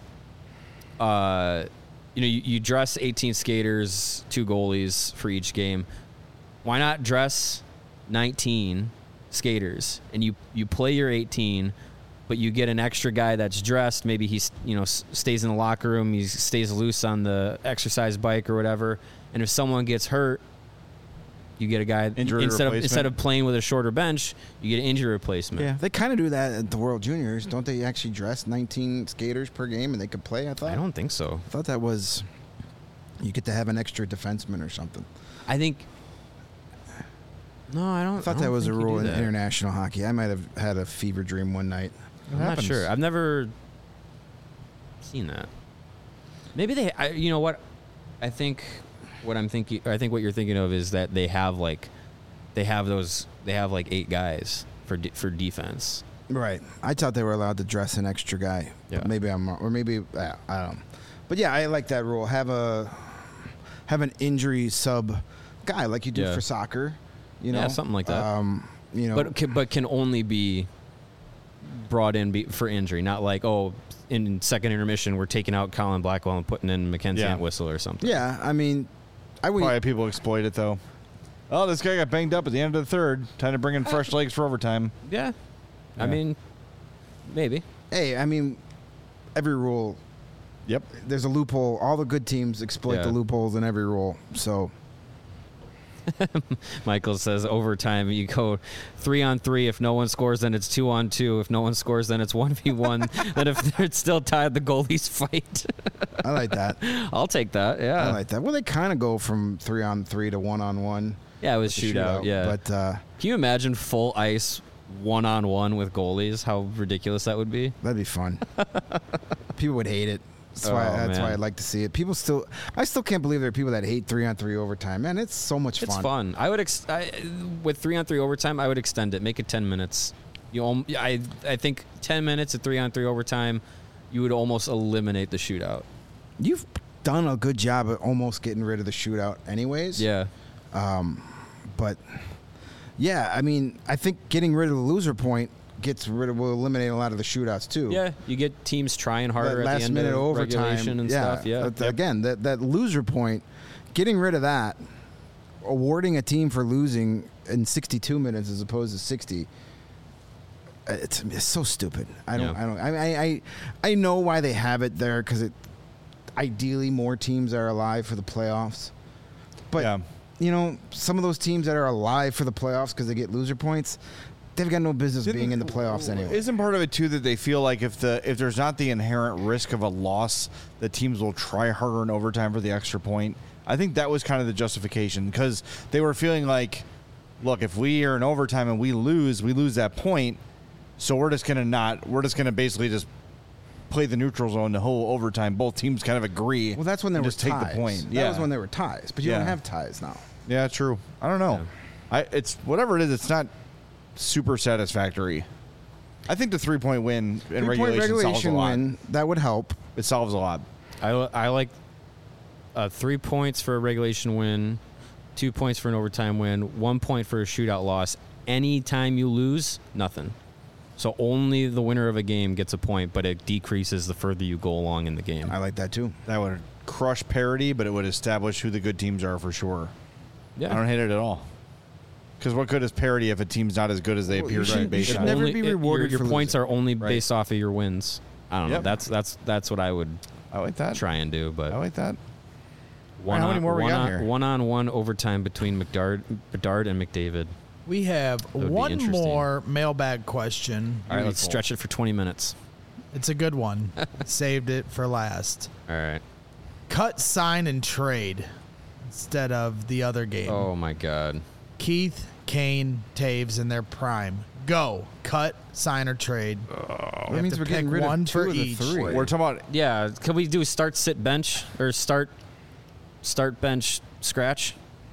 you dress 18 skaters, 2 goalies for each game. Why not dress 19 skaters and you play your 18, but you get an extra guy that's dressed. Maybe he stays in the locker room. He stays loose on the exercise bike or whatever. And if someone gets hurt, you get a guy instead of playing with a shorter bench, you get an injury replacement. Yeah, they kind of do that at the World Juniors, don't they? Actually dress 19 skaters per game and they could play. I don't think so. I thought that was you get to have an extra defenseman or something. I think. No, I don't. I thought I don't that was a think you rule do in that. international hockey. I might have had a fever dream one night. I'm not sure. I've never seen that. Maybe they. You know what? I think what I'm thinking. I think what you're thinking of is that they have like 8 guys for defense. Right. I thought they were allowed to dress an extra guy. Yeah. But maybe I'm wrong. Or maybe I don't know. But yeah, I like that rule. Have an injury sub guy like you do Yeah. for soccer. You know, Yeah, something like that. But can only be brought in for injury, not like in second intermission we're taking out Colin Blackwell and putting in Mackenzie Entwistle or something. yeah, I mean, I would. Probably people exploit it though. Oh, this guy got banged up at the end of the third. Time to bring in fresh legs for overtime. Yeah. Yeah. I mean, maybe. Hey, I mean, every rule. Yep. There's a loophole. All the good teams exploit Yeah. the loopholes in every rule. So Michael says overtime. You go 3-on-3. If no one scores, then it's 2-on-2. If no one scores, then it's 1v1. Then if it's still tied, the goalies fight. I like that. I'll take that. Yeah, I like that. Well, they kind of go from 3-on-3 to 1-on-1. Yeah, it was shootout. Yeah, but can you imagine full ice 1-on-1 with goalies? How ridiculous that would be. That'd be fun. People would hate it. That's why I'd like to see it. I still can't believe there are people that hate 3-on-3 overtime. Man, it's so much fun. It's fun. I would with 3-on-3 overtime, I would extend it. Make it 10 minutes. I think 10 minutes of 3-on-3 overtime, you would almost eliminate the shootout. You've done a good job of almost getting rid of the shootout anyways. Yeah. But yeah, I mean, I think getting rid of the loser point will eliminate a lot of the shootouts too. Yeah, you get teams trying harder that at the end minute of overtime regulation and stuff. Yeah. Again, that loser point, getting rid of that, awarding a team for losing in 62 minutes as opposed to 60. It's so stupid. I know why they have it there because ideally more teams are alive for the playoffs. But some of those teams that are alive for the playoffs because they get loser points, they've got no business being in the playoffs anyway. Isn't part of it too that they feel like if there's not the inherent risk of a loss, the teams will try harder in overtime for the extra point? I think that was kind of the justification because they were feeling like, look, if we are in overtime and we lose that point, so we're just gonna basically just play the neutral zone the whole overtime. Both teams kind of agree. Well, that's when they were just ties. Take the point. That was when they were ties, but you don't have ties now. Yeah, true. I don't know. Yeah. It's whatever it is. It's not super satisfactory. I think the 3-point win in regulation solves a lot. That would help. It solves a lot. I like 3 points for a regulation win, 2 points for an overtime win, 1 point for a shootout loss. Anytime you lose, nothing. So only the winner of a game gets a point, but it decreases the further you go along in the game. I like that too. That would crush parity, but it would establish who the good teams are for sure. Yeah. I don't hate it at all. Because what good is parity if a team's not as good as they appear to be based on? Never be rewarded. Your points are only based off of your wins. I don't know. That's what I would. I like that. Try and do, but I like that. How many more we got here? 1-on-1 overtime between Bedard and McDavid. We have one more mailbag question. All right, let's stretch it for 20 minutes. It's a good one. Saved it for last. All right. Cut, sign, and trade instead of the other game. Oh, my God. Keith, Kane, Taves in their prime. Go. Cut, sign, or trade. That means we're getting rid of 2 of the 3. We're talking about... Yeah. Can we do start, sit, bench? Or start, bench, scratch?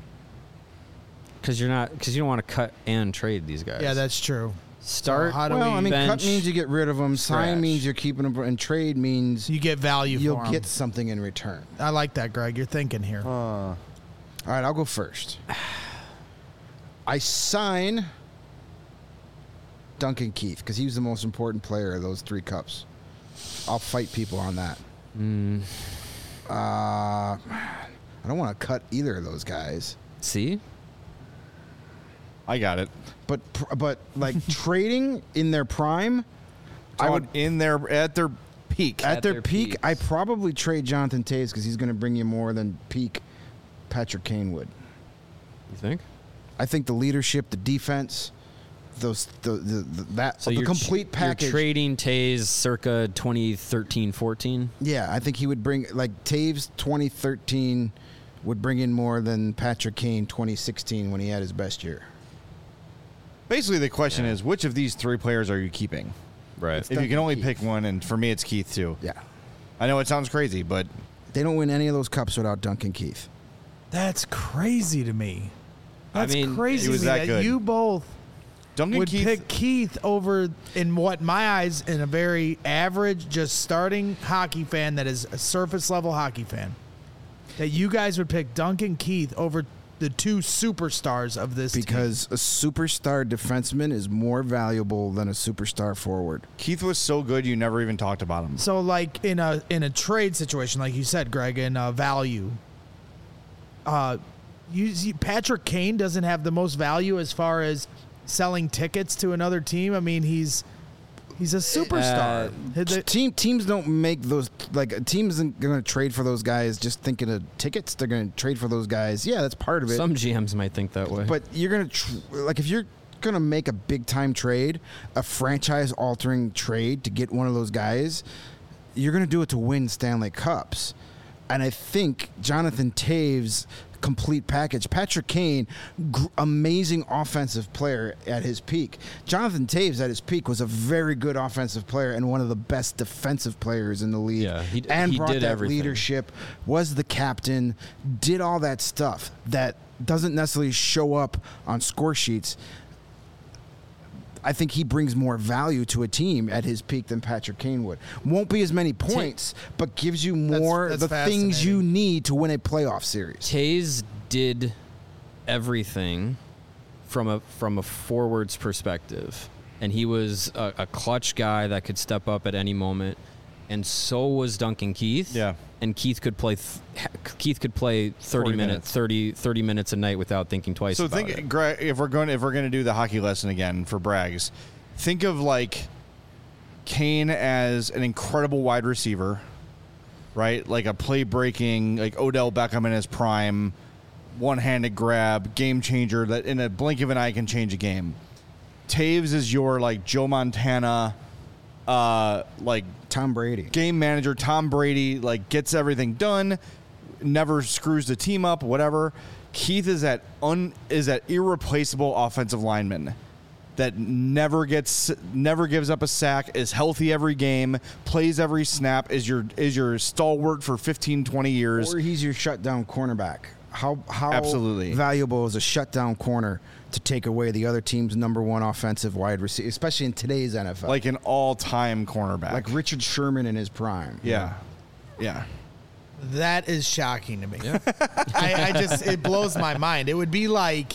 Because you don't want to cut and trade these guys. Yeah, that's true. Start. So bench, cut means you get rid of them. Scratch. Sign means you're keeping them, and trade means you get value. You'll get something in return. I like that, Greg. You're thinking here. All right, I'll go first. I sign Duncan Keith because he was the most important player of those 3 cups. I'll fight people on that. I don't want to cut either of those guys. See? I got it. But like trading in their prime, I would at their peak. At their peak, I probably trade Jonathan Toews because he's going to bring you more than peak Patrick Kane would. You think? I think the leadership, the defense, the complete package. You're trading Toews circa 2013-14? Yeah, I think he would bring Toews 2013 would bring in more than Patrick Kane 2016 when he had his best year. Basically, the question is, which of these 3 players are you keeping? Right. If you can only pick one, and for me, it's Keith too. Yeah. I know it sounds crazy, but they don't win any of those cups without Duncan Keith. That's crazy to me. That's crazy he was to me that good. You both would pick Keith over, in what my eyes, in a very average, just starting hockey fan that is a surface level hockey fan. That you guys would pick Duncan Keith over the 2 superstars of this because team. A superstar defenseman is more valuable than a superstar forward. Keith was so good you never even talked about him. So like in a trade situation, like you said, Greg, in value, Patrick Kane doesn't have the most value as far as selling tickets to another team. I mean, he's a superstar. Teams don't make those like a team isn't going to trade for those guys just thinking of tickets. They're going to trade for those guys. Yeah, that's part of it. Some GMs might think that way. But you're going to like if you're going to make a big time trade, a franchise altering trade to get one of those guys, you're going to do it to win Stanley Cups. And I think Jonathan Toews complete package. Patrick Kane, amazing offensive player at his peak. Jonathan Toews at his peak was a very good offensive player and one of the best defensive players in the league. Yeah, he brought did that everything. leadership, was the captain, did all that stuff that doesn't necessarily show up on score sheets. I think he brings more value to a team at his peak than Patrick Kane would. Won't be as many points, but gives you more that's the things you need to win a playoff series. Toews did everything from a forward's perspective, and he was a clutch guy that could step up at any moment. And so was Duncan Keith. Yeah. And Keith could play 30 minutes a night without thinking twice about it. So Greg, if we're going to do the hockey lesson again for Braggs, think of like Kane as an incredible wide receiver, right? Like a play breaking, like Odell Beckham in his prime, one-handed grab, game changer that in a blink of an eye can change a game. Toews is your like Joe Montana, like Tom Brady, game manager. Tom Brady like gets everything done, never screws the team up, whatever. Keith is that irreplaceable offensive lineman that never gives up a sack, is healthy every game, plays every snap, is your stalwart for 15, 20 years. Or he's your shutdown cornerback. How absolutely valuable is a shutdown corner to take away the other team's number one offensive wide receiver, especially in today's NFL? Like an all-time cornerback. Like Richard Sherman in his prime. Yeah. Yeah. That is shocking to me. Yeah. I just, it blows my mind. It would be like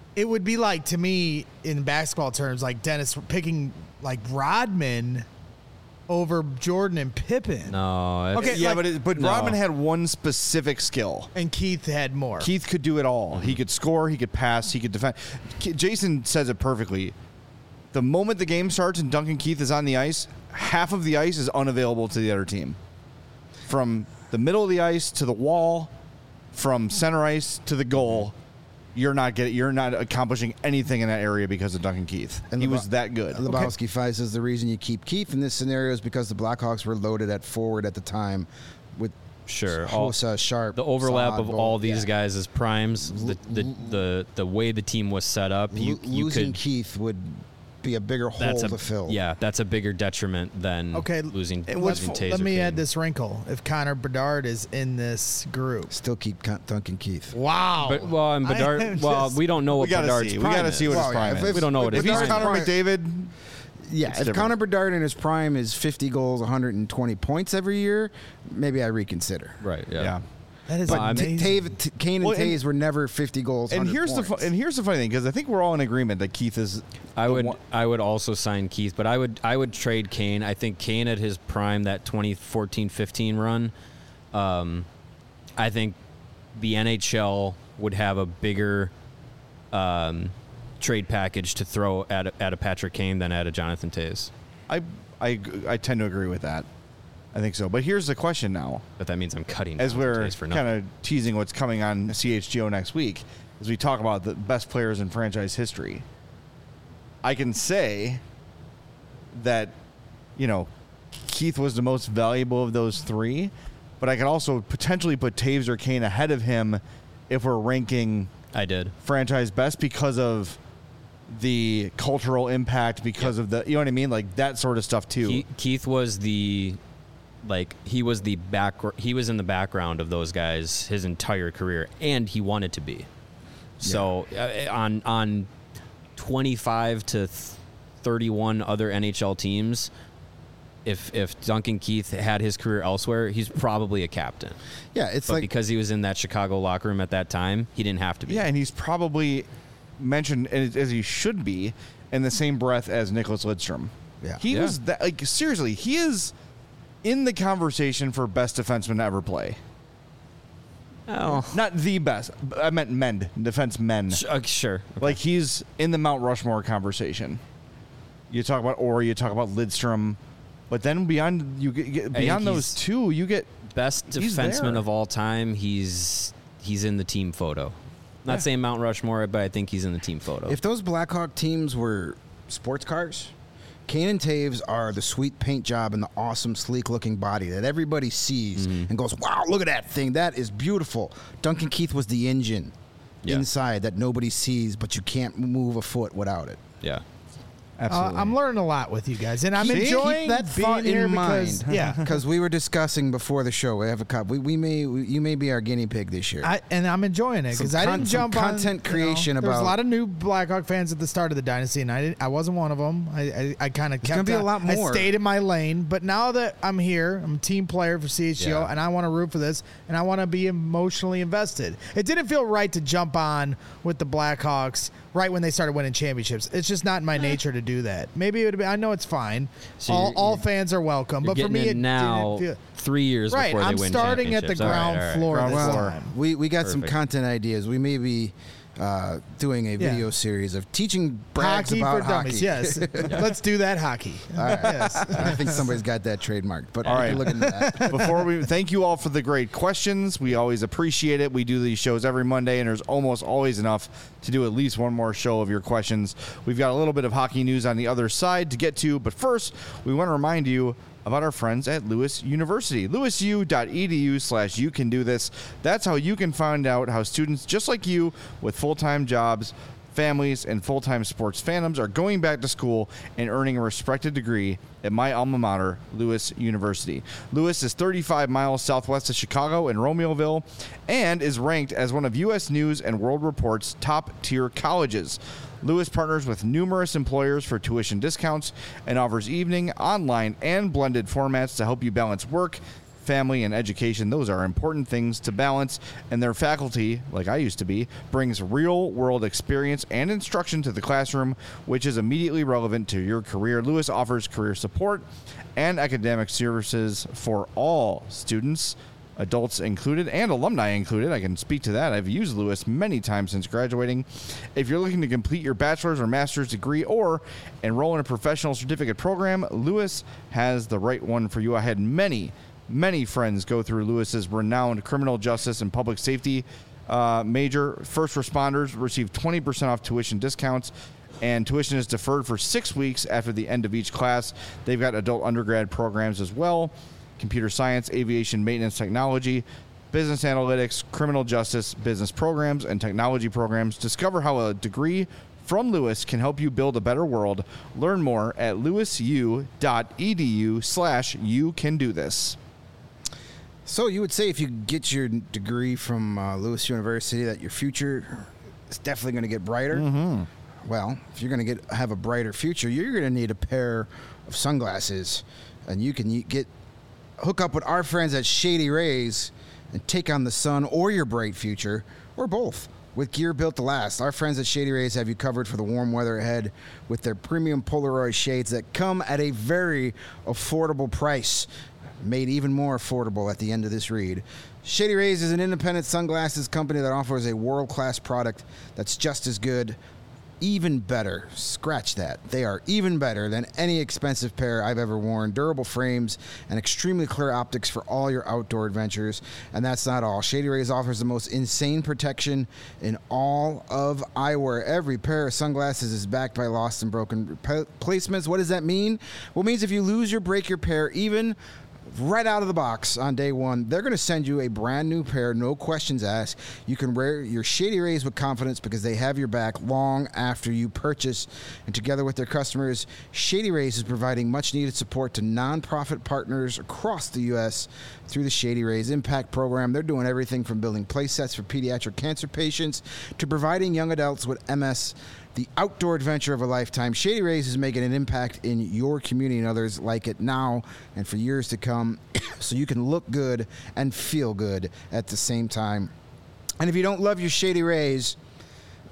to me in basketball terms, like Dennis picking like Rodman over Jordan and Pippen. No. Okay, yeah, like, but Rodman had one specific skill. And Keith had more. Keith could do it all. Mm-hmm. He could score, he could pass, he could defend. Jason says it perfectly. The moment the game starts and Duncan Keith is on the ice, half of the ice is unavailable to the other team. From the middle of the ice to the wall, from center ice to the goal, you're not accomplishing anything in that area because of Duncan Keith. And he was that good. Lebowski Five says the reason you keep Keith in this scenario is because the Blackhawks were loaded at forward at the time with Hossa, Sharp, the overlap Saad, of all these guys as primes, the way the team was set up. Losing Keith would be a bigger hole to fill. Yeah, that's a bigger detriment than losing Taser. Let me add this wrinkle. If Connor Bedard is in this group, still keep Duncan Keith. Wow. And Bedard. We don't know what Bedard's prime is. We got to see what his prime is. We don't know what his prime is. If he's Connor McDavid. Yeah, if Connor Bedard in his prime is 50 goals, 120 points every year, maybe I reconsider. Right. Yeah. That is amazing. Kane and Toews were never 50 goals. And here's the funny thing, because I think we're all in agreement that Keith is. I would also sign Keith, but I would trade Kane. I think Kane at his prime, that 2014-15 run, I think the NHL would have a bigger trade package to throw at a Patrick Kane than at a Jonathan Toews. I tend to agree with that. I think so. But here's the question now. But that means I'm cutting. As we're kind of teasing what's coming on CHGO next week, as we talk about the best players in franchise history, I can say that, Keith was the most valuable of those three, but I can also potentially put Toews or Kane ahead of him if we're ranking franchise best because of the cultural impact, because of the, you know what I mean? Like that sort of stuff too. Keith was he was in the background of those guys his entire career, and he wanted to be. So on 25 to 31 other NHL teams, if Duncan Keith had his career elsewhere, he's probably a captain. Yeah, but because he was in that Chicago locker room at that time, he didn't have to be. Yeah, and he's probably mentioned as he should be in the same breath as Nicholas Lidstrom. Yeah, he was that. Like seriously, he is in the conversation for best defenseman to ever play. Oh, not the best. I meant defense men. Sure. Okay. Like he's in the Mount Rushmore conversation. You talk about Orr, you talk about Lidstrom, But then beyond those two, you get best defenseman of all time. He's in the team photo. Not saying Mount Rushmore, but I think he's in the team photo. If those Blackhawk teams were sports cars, Kane and Taves are the sweet paint job and the awesome, sleek-looking body that everybody sees and goes, wow, look at that thing. That is beautiful. Duncan Keith was the engine inside that nobody sees, but you can't move a foot without it. Yeah. Absolutely. I'm learning a lot with you guys, and I'm enjoying that thought being here in because, mind. Because we were discussing before the show. We have a cup. You may be our guinea pig this year. And I'm enjoying it because I didn't jump on content creation about. There's a lot of new Blackhawk fans at the start of the dynasty, and I wasn't one of them. I kind of kept. Gonna be a lot more. I stayed in my lane, but now that I'm here, I'm a team player for CHGO, and I want to root for this, and I want to be emotionally invested. It didn't feel right to jump on with the Blackhawks right when they started winning championships. It's just not in my nature to do that. Maybe it would be. I know it's fine. So all fans are welcome, but for me, it now didn't feel 3 years before they win I'm starting at the ground floor. Ground floor. Time. We got some content ideas. We may be doing a video series of teaching brags hockey about for dummies. Yes, let's do that hockey. All right. Yes. I think somebody's got that trademarked. But all right, look at that. Before we thank you all for the great questions. We always appreciate it. We do these shows every Monday, and there's almost always enough to do at least one more show of your questions. We've got a little bit of hockey news on the other side to get to, but first, we want to remind you about our friends at Lewis University. LewisU.edu/YouCanDoThis. That's how you can find out how students just like you with full-time jobs, families, and full-time sports fandoms are going back to school and earning a respected degree at my alma mater, Lewis University. Lewis is 35 miles southwest of Chicago in Romeoville and is ranked as one of U.S. News and World Report's top-tier colleges. Lewis partners with numerous employers for tuition discounts and offers evening, online, and blended formats to help you balance work, family, and education. Those are important things to balance, and their faculty, like I used to be, brings real-world experience and instruction to the classroom, which is immediately relevant to your career. Lewis offers career support and academic services for all students, adults included and alumni included. I can speak to that. I've used Lewis many times since graduating. If you're looking to complete your bachelor's or master's degree or enroll in a professional certificate program, Lewis has the right one for you. I had many friends go through Lewis's renowned criminal justice and public safety major. First responders receive 20% off tuition discounts, and tuition is deferred for 6 weeks after the end of each class. They've got adult undergrad programs as well: computer science, aviation maintenance technology, business analytics, criminal justice, business programs, and technology programs. Discover how a degree from Lewis can help you build a better world. Learn more at lewisu.edu/YouCanDoThis. So you would say if you get your degree from Lewis University that your future is definitely going to get brighter? Mm-hmm. Well, if you're going to have a brighter future, you're going to need a pair of sunglasses, and you can hook up with our friends at Shady Rays and take on the sun or your bright future, or both, with gear built to last. Our friends at Shady Rays have you covered for the warm weather ahead with their premium Polaroid shades that come at a very affordable price, made even more affordable at the end of this read. Shady Rays is an independent sunglasses company that offers a world-class product that's just as good, even better. Scratch that. They are even better than any expensive pair I've ever worn. Durable frames and extremely clear optics for all your outdoor adventures. And that's not all. Shady Rays offers the most insane protection in all of eyewear. Every pair of sunglasses is backed by lost and broken replacements. What does that mean? Well, it means if you lose or break your pair, even right out of the box on day one, they're going to send you a brand new pair, no questions asked. You can wear your Shady Rays with confidence because they have your back long after you purchase. And together with their customers, Shady Rays is providing much needed support to nonprofit partners across the U.S. through the Shady Rays Impact Program. They're doing everything from building play sets for pediatric cancer patients to providing young adults with MS the outdoor adventure of a lifetime. Shady Rays is making an impact in your community and others like it now and for years to come, so you can look good and feel good at the same time. And if you don't love your Shady Rays,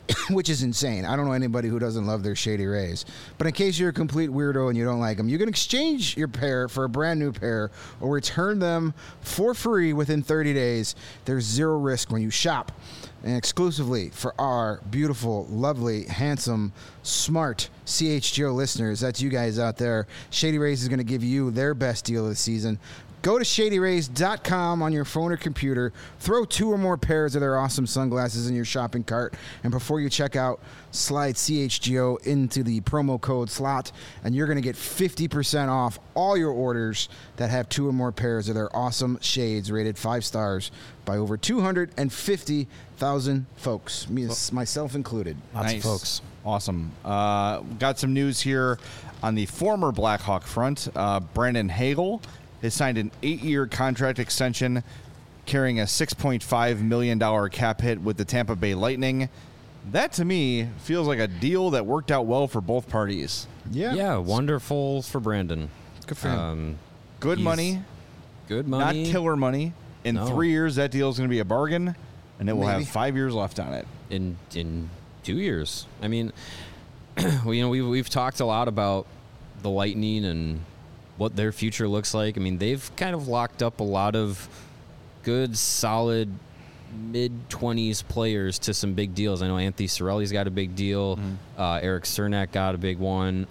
which is insane. I don't know anybody who doesn't love their Shady Rays. But in case you're a complete weirdo and you don't like them, you can exchange your pair for a brand new pair or return them for free within 30 days. There's zero risk when you shop. And exclusively for our beautiful, lovely, handsome, smart CHGO listeners, that's you guys out there, Shady Rays is going to give you their best deal of the season. Go to ShadyRays.com on your phone or computer. Throw 2 or more pairs of their awesome sunglasses in your shopping cart. And before you check out, slide CHGO into the promo code slot. And you're going to get 50% off all your orders that have 2 or more pairs of their awesome shades rated 5 stars by over 250,000 folks, myself included. Lots of folks. Awesome. Got some news here on the former Blackhawk front. Brandon Hagel has signed an 8-year contract extension carrying a $6.5 million cap hit with the Tampa Bay Lightning. That, to me, feels like a deal that worked out well for both parties. Yeah, wonderful for Brandon. Good for him. Good money. Good money. Not killer money. In 3 years, that deal is going to be a bargain, and it will have 5 years left on it. In 2 years. I mean, we've talked a lot about the Lightning and what their future looks like. I mean, they've kind of locked up a lot of good, solid mid-20s players to some big deals. I know Anthony Cirelli's got a big deal. Eric Cernak got a big one.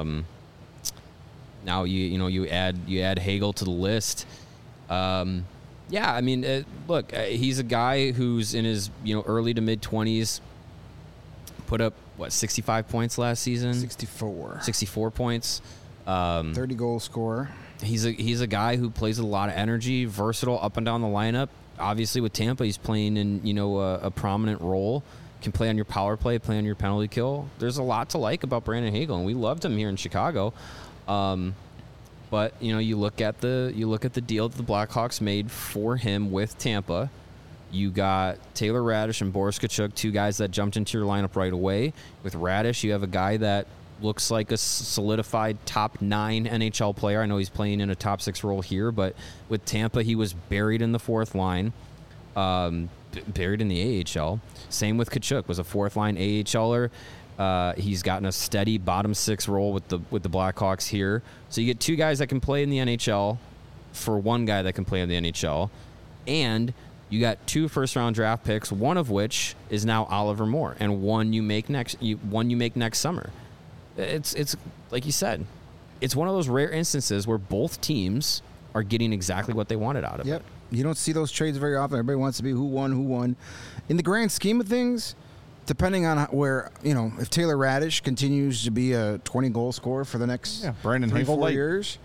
Now you add Hagel to the list. Yeah, I mean, look, he's a guy who's in his early to mid-20s. Put up 65 points last season. 64 points. 30 goal scorer. He's a guy who plays with a lot of energy, versatile up and down the lineup. Obviously, with Tampa, he's playing in a prominent role. Can play on your power play, play on your penalty kill. There's a lot to like about Brandon Hagel, and we loved him here in Chicago. But you look at the deal that the Blackhawks made for him with Tampa. You got Taylor Radish and Boris Tkachuk, 2 guys that jumped into your lineup right away. With Radish, you have a guy that looks like a solidified top 9 NHL player. I know he's playing in a top 6 role here, but with Tampa, he was buried in the 4th line, buried in the AHL. Same with Tkachuk, was a 4th line AHLer. He's gotten a steady bottom 6 role with the Blackhawks here. So you get 2 guys that can play in the NHL for 1 guy that can play in the NHL, and you got 2 first-round draft picks, one of which is now Oliver Moore, and one you make next summer. It's like you said, it's one of those rare instances where both teams are getting exactly what they wanted out of it. You don't see those trades very often. Everybody wants to be who won. In the grand scheme of things, depending on where, if Taylor Radish continues to be a 20-goal scorer for the next Brandon 3-4 years,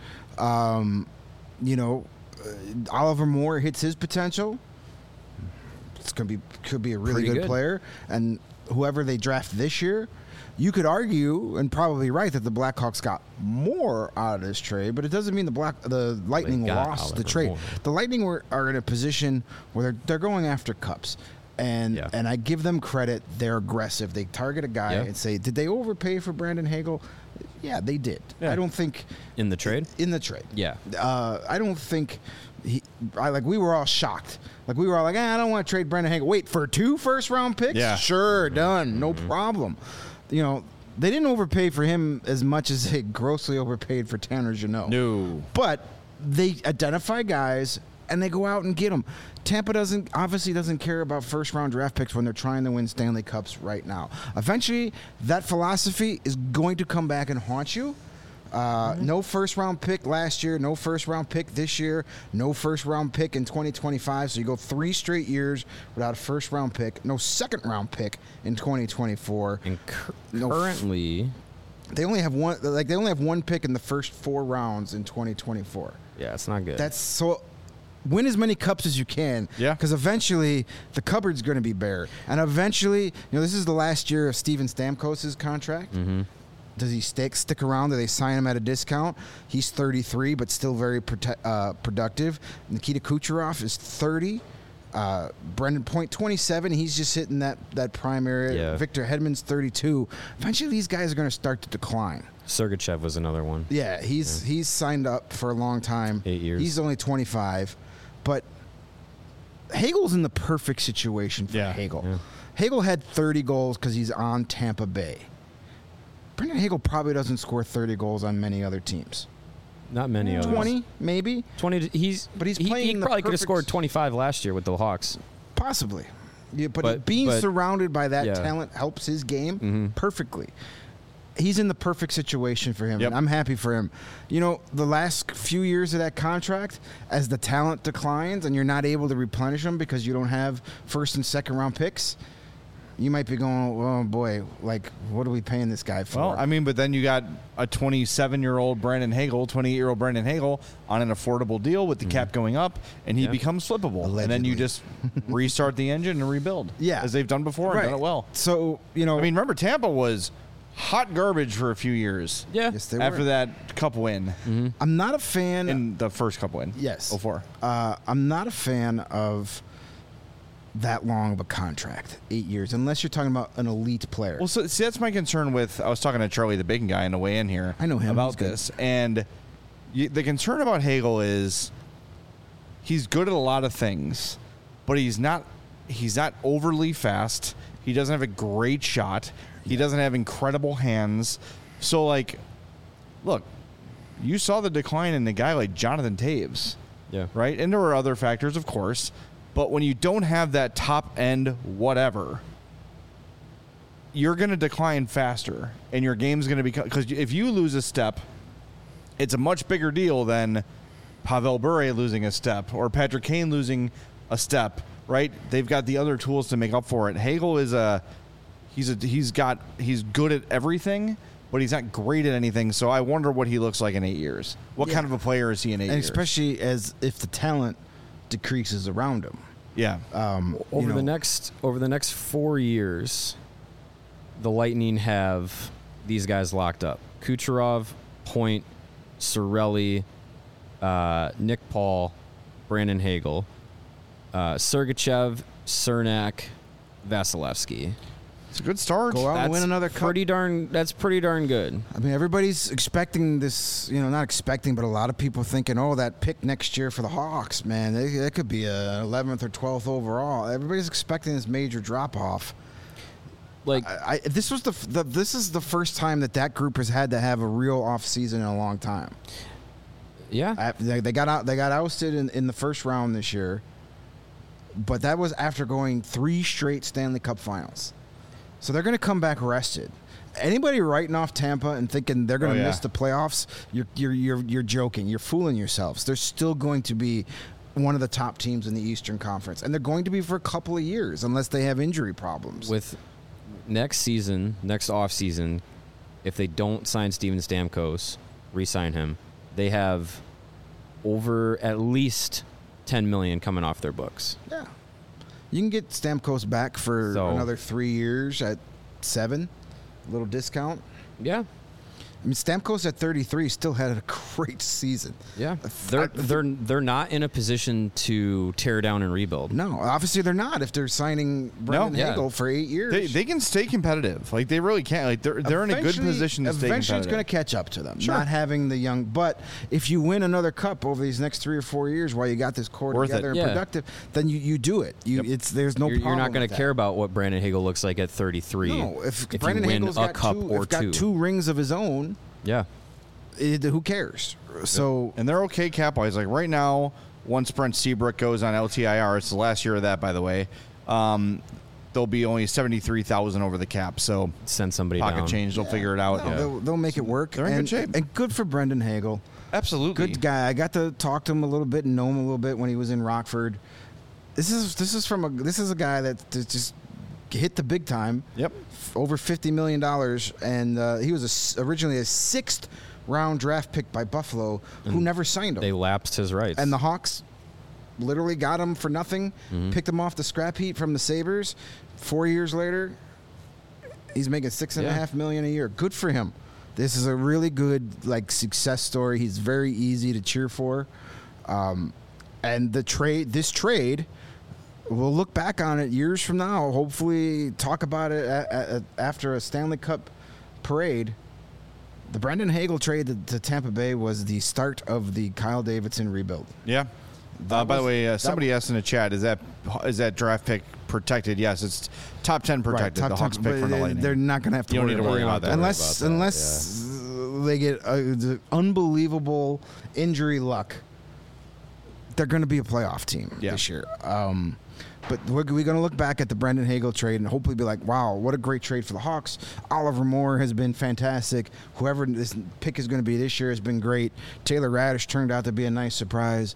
Oliver Moore hits his potential, could be a really good player, and whoever they draft this year, you could argue, and probably right, that the Blackhawks got more out of this trade, but it doesn't mean the Lightning lost the trade. The Lightning are in a position where they're going after cups, and I give them credit. They're aggressive. They target a guy and say, did they overpay for Brandon Hagel? Yeah, they did. I don't think in the trade. Yeah, I don't think. We were all shocked. We were all like, I don't want to trade Brandon Hagel. Wait, for 2 first-round picks? Yeah. Sure, done. No problem. They didn't overpay for him as much as they grossly overpaid for Tanner Jeannot. No. But they identify guys, and they go out and get them. Tampa obviously doesn't care about first-round draft picks when they're trying to win Stanley Cups right now. Eventually, that philosophy is going to come back and haunt you. No first-round pick last year, no first-round pick this year, no first-round pick in 2025. So you go 3 straight years without a first-round pick, no second-round pick in 2024. And currently, they only have one. They only have 1 pick in the first 4 rounds in 2024. Yeah, it's not good. That's so. Win as many cups as you can. Yeah. Because eventually the cupboard's going to be bare, and eventually, this is the last year of Steven Stamkos' contract. Mm-hmm. Does he stick around? Do they sign him at a discount? He's 33, but still very productive. Nikita Kucherov is 30. Brendan Point, 27. He's just hitting that prime area. Yeah. Victor Hedman's 32. Eventually, these guys are going to start to decline. Sergachev was another one. Yeah, he's signed up for a long time. 8 years. He's only 25. But Hagel's in the perfect situation for Hagel. Hagel had 30 goals because he's on Tampa Bay. Brendan Hagel probably doesn't score 30 goals on many other teams. Not many others. 20, maybe. 20. But he's playing. He probably could have scored 25 last year with the Hawks. Possibly. Yeah, but being surrounded by that talent helps his game perfectly. He's in the perfect situation for him, and I'm happy for him. You know, the last few years of that contract, as the talent declines and you're not able to replenish them because you don't have first and second round picks, you might be going, oh boy, like, what are we paying this guy for? Well, I mean, but then you got a 27-year-old Brandon Hagel, 28-year-old Brandon Hagel on an affordable deal with the cap going up, and he becomes flippable. Allegedly. And then you just restart the engine and rebuild. Yeah. As they've done before and done it well. So, you know. I mean, remember, Tampa was hot garbage for a few years. Yeah. Yes, they after were. that cup win. I'm not a fan. In the first cup win. Yes. 04. I'm not a fan of that long of a contract, 8 years, unless you're talking about an elite player. Well, so see, that's my concern with. I was talking to Charlie, the bacon guy, on the way in here. I know him. About this, and the concern about Hagel is he's good at a lot of things, but he's not overly fast. He doesn't have a great shot. He doesn't have incredible hands. So, like, look, you saw the decline in a guy like Jonathan Taves. Yeah. Right? And there were other factors, of course. But when you don't have that top end whatever, you're going to decline faster. And your game's going to become... Because if you lose a step, it's a much bigger deal than Pavel Bure losing a step or Patrick Kane losing a step, right? They've got the other tools to make up for it. Hagel is he's good at everything, but he's not great at anything. So I wonder what he looks like in 8 years. What kind of a player is he in 8 years? Especially as if the talent decreases around him. Yeah. Over the next 4 years, the Lightning have these guys locked up: Kucherov, Point, Cirelli, Nick Paul, Brandon Hagel, Sergachev, Cernak, Vasilevsky. It's a good start. Go out and win another cup. That's pretty darn good. I mean, everybody's expecting this, not expecting, but a lot of people thinking, oh, that pick next year for the Hawks, man, that could be a 11th or 12th overall. Everybody's expecting this major drop-off. Like, this is the first time that group has had to have a real off season in a long time. Yeah. They got ousted in the first round this year, but that was after going 3 straight Stanley Cup finals. So they're going to come back rested. Anybody writing off Tampa and thinking they're going to miss the playoffs, you're joking. You're fooling yourselves. They're still going to be one of the top teams in the Eastern Conference, and they're going to be for a couple of years unless they have injury problems. With next off season, if they don't sign Steven Stamkos, re-sign him, they have over at least $10 million coming off their books. Yeah. You can get Stamkos back for another 3 years at $7, a little discount. Yeah. I mean, Stamkos at 33 still had a great season. Yeah, they're not in a position to tear down and rebuild. No, obviously they're not. If they're signing Brendan Hagel for 8 years, they can stay competitive. Like they really can. Like they're in a good position to stay competitive. Eventually, it's going to catch up to them. Sure. Not having the young, but if you win another cup over these next 3 or 4 years while you got this core together and productive, then you do it. There's no problem. You're not going to care about what Brandon Hagel looks like at 33. No, if Brandon Hagel's got got 2 rings of his own. Yeah. Who cares? So and they're okay cap-wise. Like right now, once Brent Seabrook goes on LTIR, it's the last year of that, by the way. They'll be only $73,000 over the cap. So send somebody pocket down. change. They'll figure it out. They'll make it work. They're in good shape. And good for Brendan Hagel. Absolutely, good guy. I got to talk to him a little bit and know him a little bit when he was in Rockford. This is a guy that just hit the big time. Yep. Over $50 million, and he was originally a 6th round draft pick by Buffalo, who never signed him. They lapsed his rights. And the Hawks literally got him for nothing, picked him off the scrap heap from the Sabres. 4 years later, he's making $6.5 million a year. Good for him. This is a really good success story. He's very easy to cheer for. And this trade, we'll look back on it years from now, hopefully talk about it after a Stanley Cup parade. The Brendan Hagel trade to Tampa Bay was the start of the Kyle Davidson rebuild. Yeah. By the way, somebody asked in the chat, is that draft pick protected. Yes, it's top 10 protected. Right, the Hawks pick from the Lightning. They're not going to have to. You don't need to worry about that. Unless they get unbelievable injury luck. They're going to be a playoff team this year. But we're going to look back at the Brendan Hagel trade and hopefully be like, wow, what a great trade for the Hawks. Oliver Moore has been fantastic. Whoever this pick is going to be this year has been great. Taylor Radish turned out to be a nice surprise.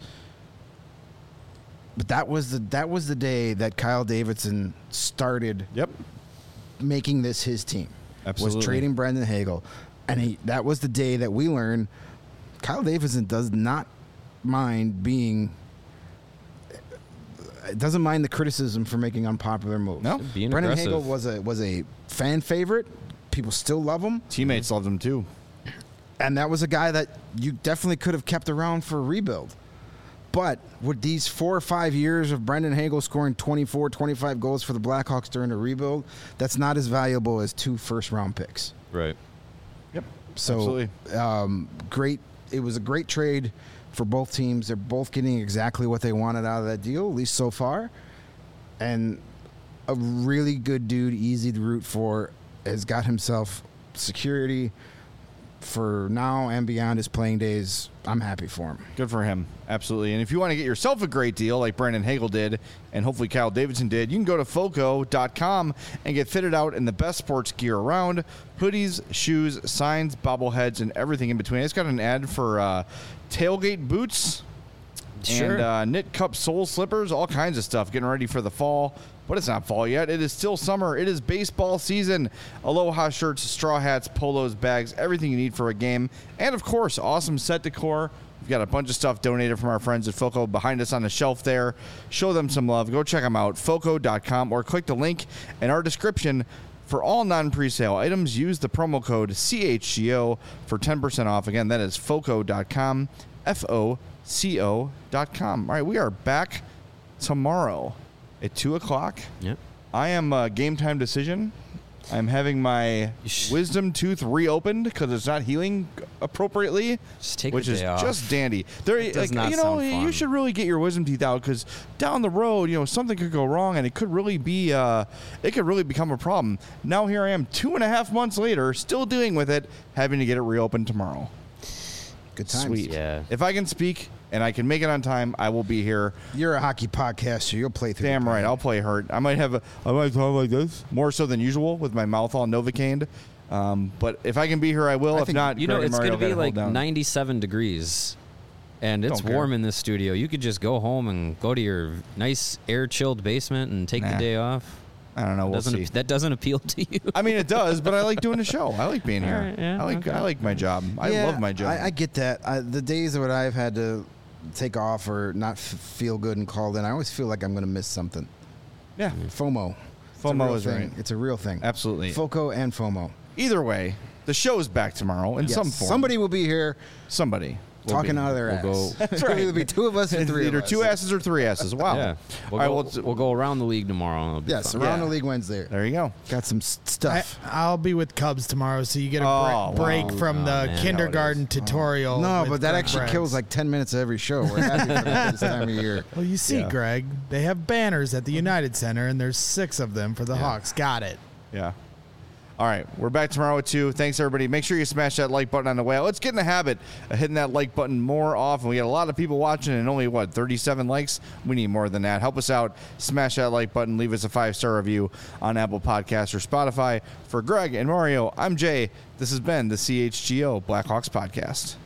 But that was the day that Kyle Davidson started making this his team. Absolutely. Was trading Brendan Hagel. And that was the day that we learned Kyle Davidson does not mind doesn't mind the criticism for making unpopular moves. No, being Brendan aggressive. Hagel was a fan favorite. People still love him. Teammates loved him too. And that was a guy that you definitely could have kept around for a rebuild. But with these 4 or 5 years of Brendan Hagel scoring 24, 25 goals for the Blackhawks during a rebuild, that's not as valuable as 2 first-round picks. Right. Yep. So, absolutely. Great. It was a great trade for both teams. They're both getting exactly what they wanted out of that deal, at least so far. And a really good dude, easy to root for, has got himself security for now and beyond his playing days. I'm happy for him. Good for him. Absolutely. And if you want to get yourself a great deal like Brendan Hagel did, and hopefully Kyle Davidson did, you can go to Foco.com and get fitted out in the best sports gear around. Hoodies, shoes, signs, bobbleheads, and everything in between. It's got an ad for tailgate boots and knit cup sole slippers, all kinds of stuff, getting ready for the fall. But it's not fall yet. It is still summer. It is baseball season. Aloha shirts, straw hats, polos, bags, everything you need for a game. And, of course, awesome set decor. We've got a bunch of stuff donated from our friends at Foco behind us on the shelf there. Show them some love. Go check them out, Foco.com, or click the link in our description. For all non-presale items, use the promo code CHGO for 10% off. Again, that is Foco.com, Foco.com. All right, we are back tomorrow at 2 o'clock. Yep. I am a game time decision. I'm having my wisdom tooth reopened because it's not healing appropriately, Just take which the is day off. just dandy. There, It does like, not you know, sound fun. you should really get your wisdom teeth out because down the road, you know, something could go wrong and it could really be, it could really become a problem. Now here I am, 2.5 months later, still dealing with it, having to get it reopened tomorrow. Good times. Sweet. Yeah. If I can speak and I can make it on time, I will be here. You're a hockey podcaster. You'll play through. Damn right, I'll play hurt. I might talk like this, more so than usual, with my mouth all Novocaine. But if I can be here, I will. If not, You know, Greg and it's going Mario to be gotta like hold down. 97 degrees, and it's Don't care. warm in this studio. You could just go home and go to your nice air-chilled basement and take the Nah. day off. I don't know. We'll see. That doesn't appeal to you. I mean, it does, but I like doing the show. I like being here. All right, yeah, I like my job. I love my job. I get that. The days that I've had to take off or not feel good and called in, I always feel like I'm going to miss something. yeah. FOMO. FOMO is right. It's a real thing. Absolutely. FOCO and FOMO. Either way, the show is back tomorrow in Yes. some form. Somebody will be here Somebody. will talking be. out of their We'll ass. go- That's right. It'll be 2 of us and 3 of Either us. 2 asses or 3 asses. Wow. Yeah. All right, We'll go around the league tomorrow. And it'll be Yes, fun. around Yeah. the league Wednesday. there you go. Got some stuff. I'll be with Cubs tomorrow, so you get a Oh, break wow. from Oh, the man. kindergarten tutorial. No, with but that Greg actually Braggs. kills like 10 minutes of every show. We're happy for that this time of year. Well, you see, Yeah. Greg, they have banners at the United Center, and there's 6 of them for the Hawks. Got it. Yeah. All right, we're back tomorrow at 2. Thanks, everybody. Make sure you smash that like button on the way out. Let's get in the habit of hitting that like button more often. We got a lot of people watching and only, 37 likes? We need more than that. Help us out. Smash that like button. Leave us a 5-star review on Apple Podcasts or Spotify. For Greg and Mario, I'm Jay. This has been the CHGO Blackhawks Podcast.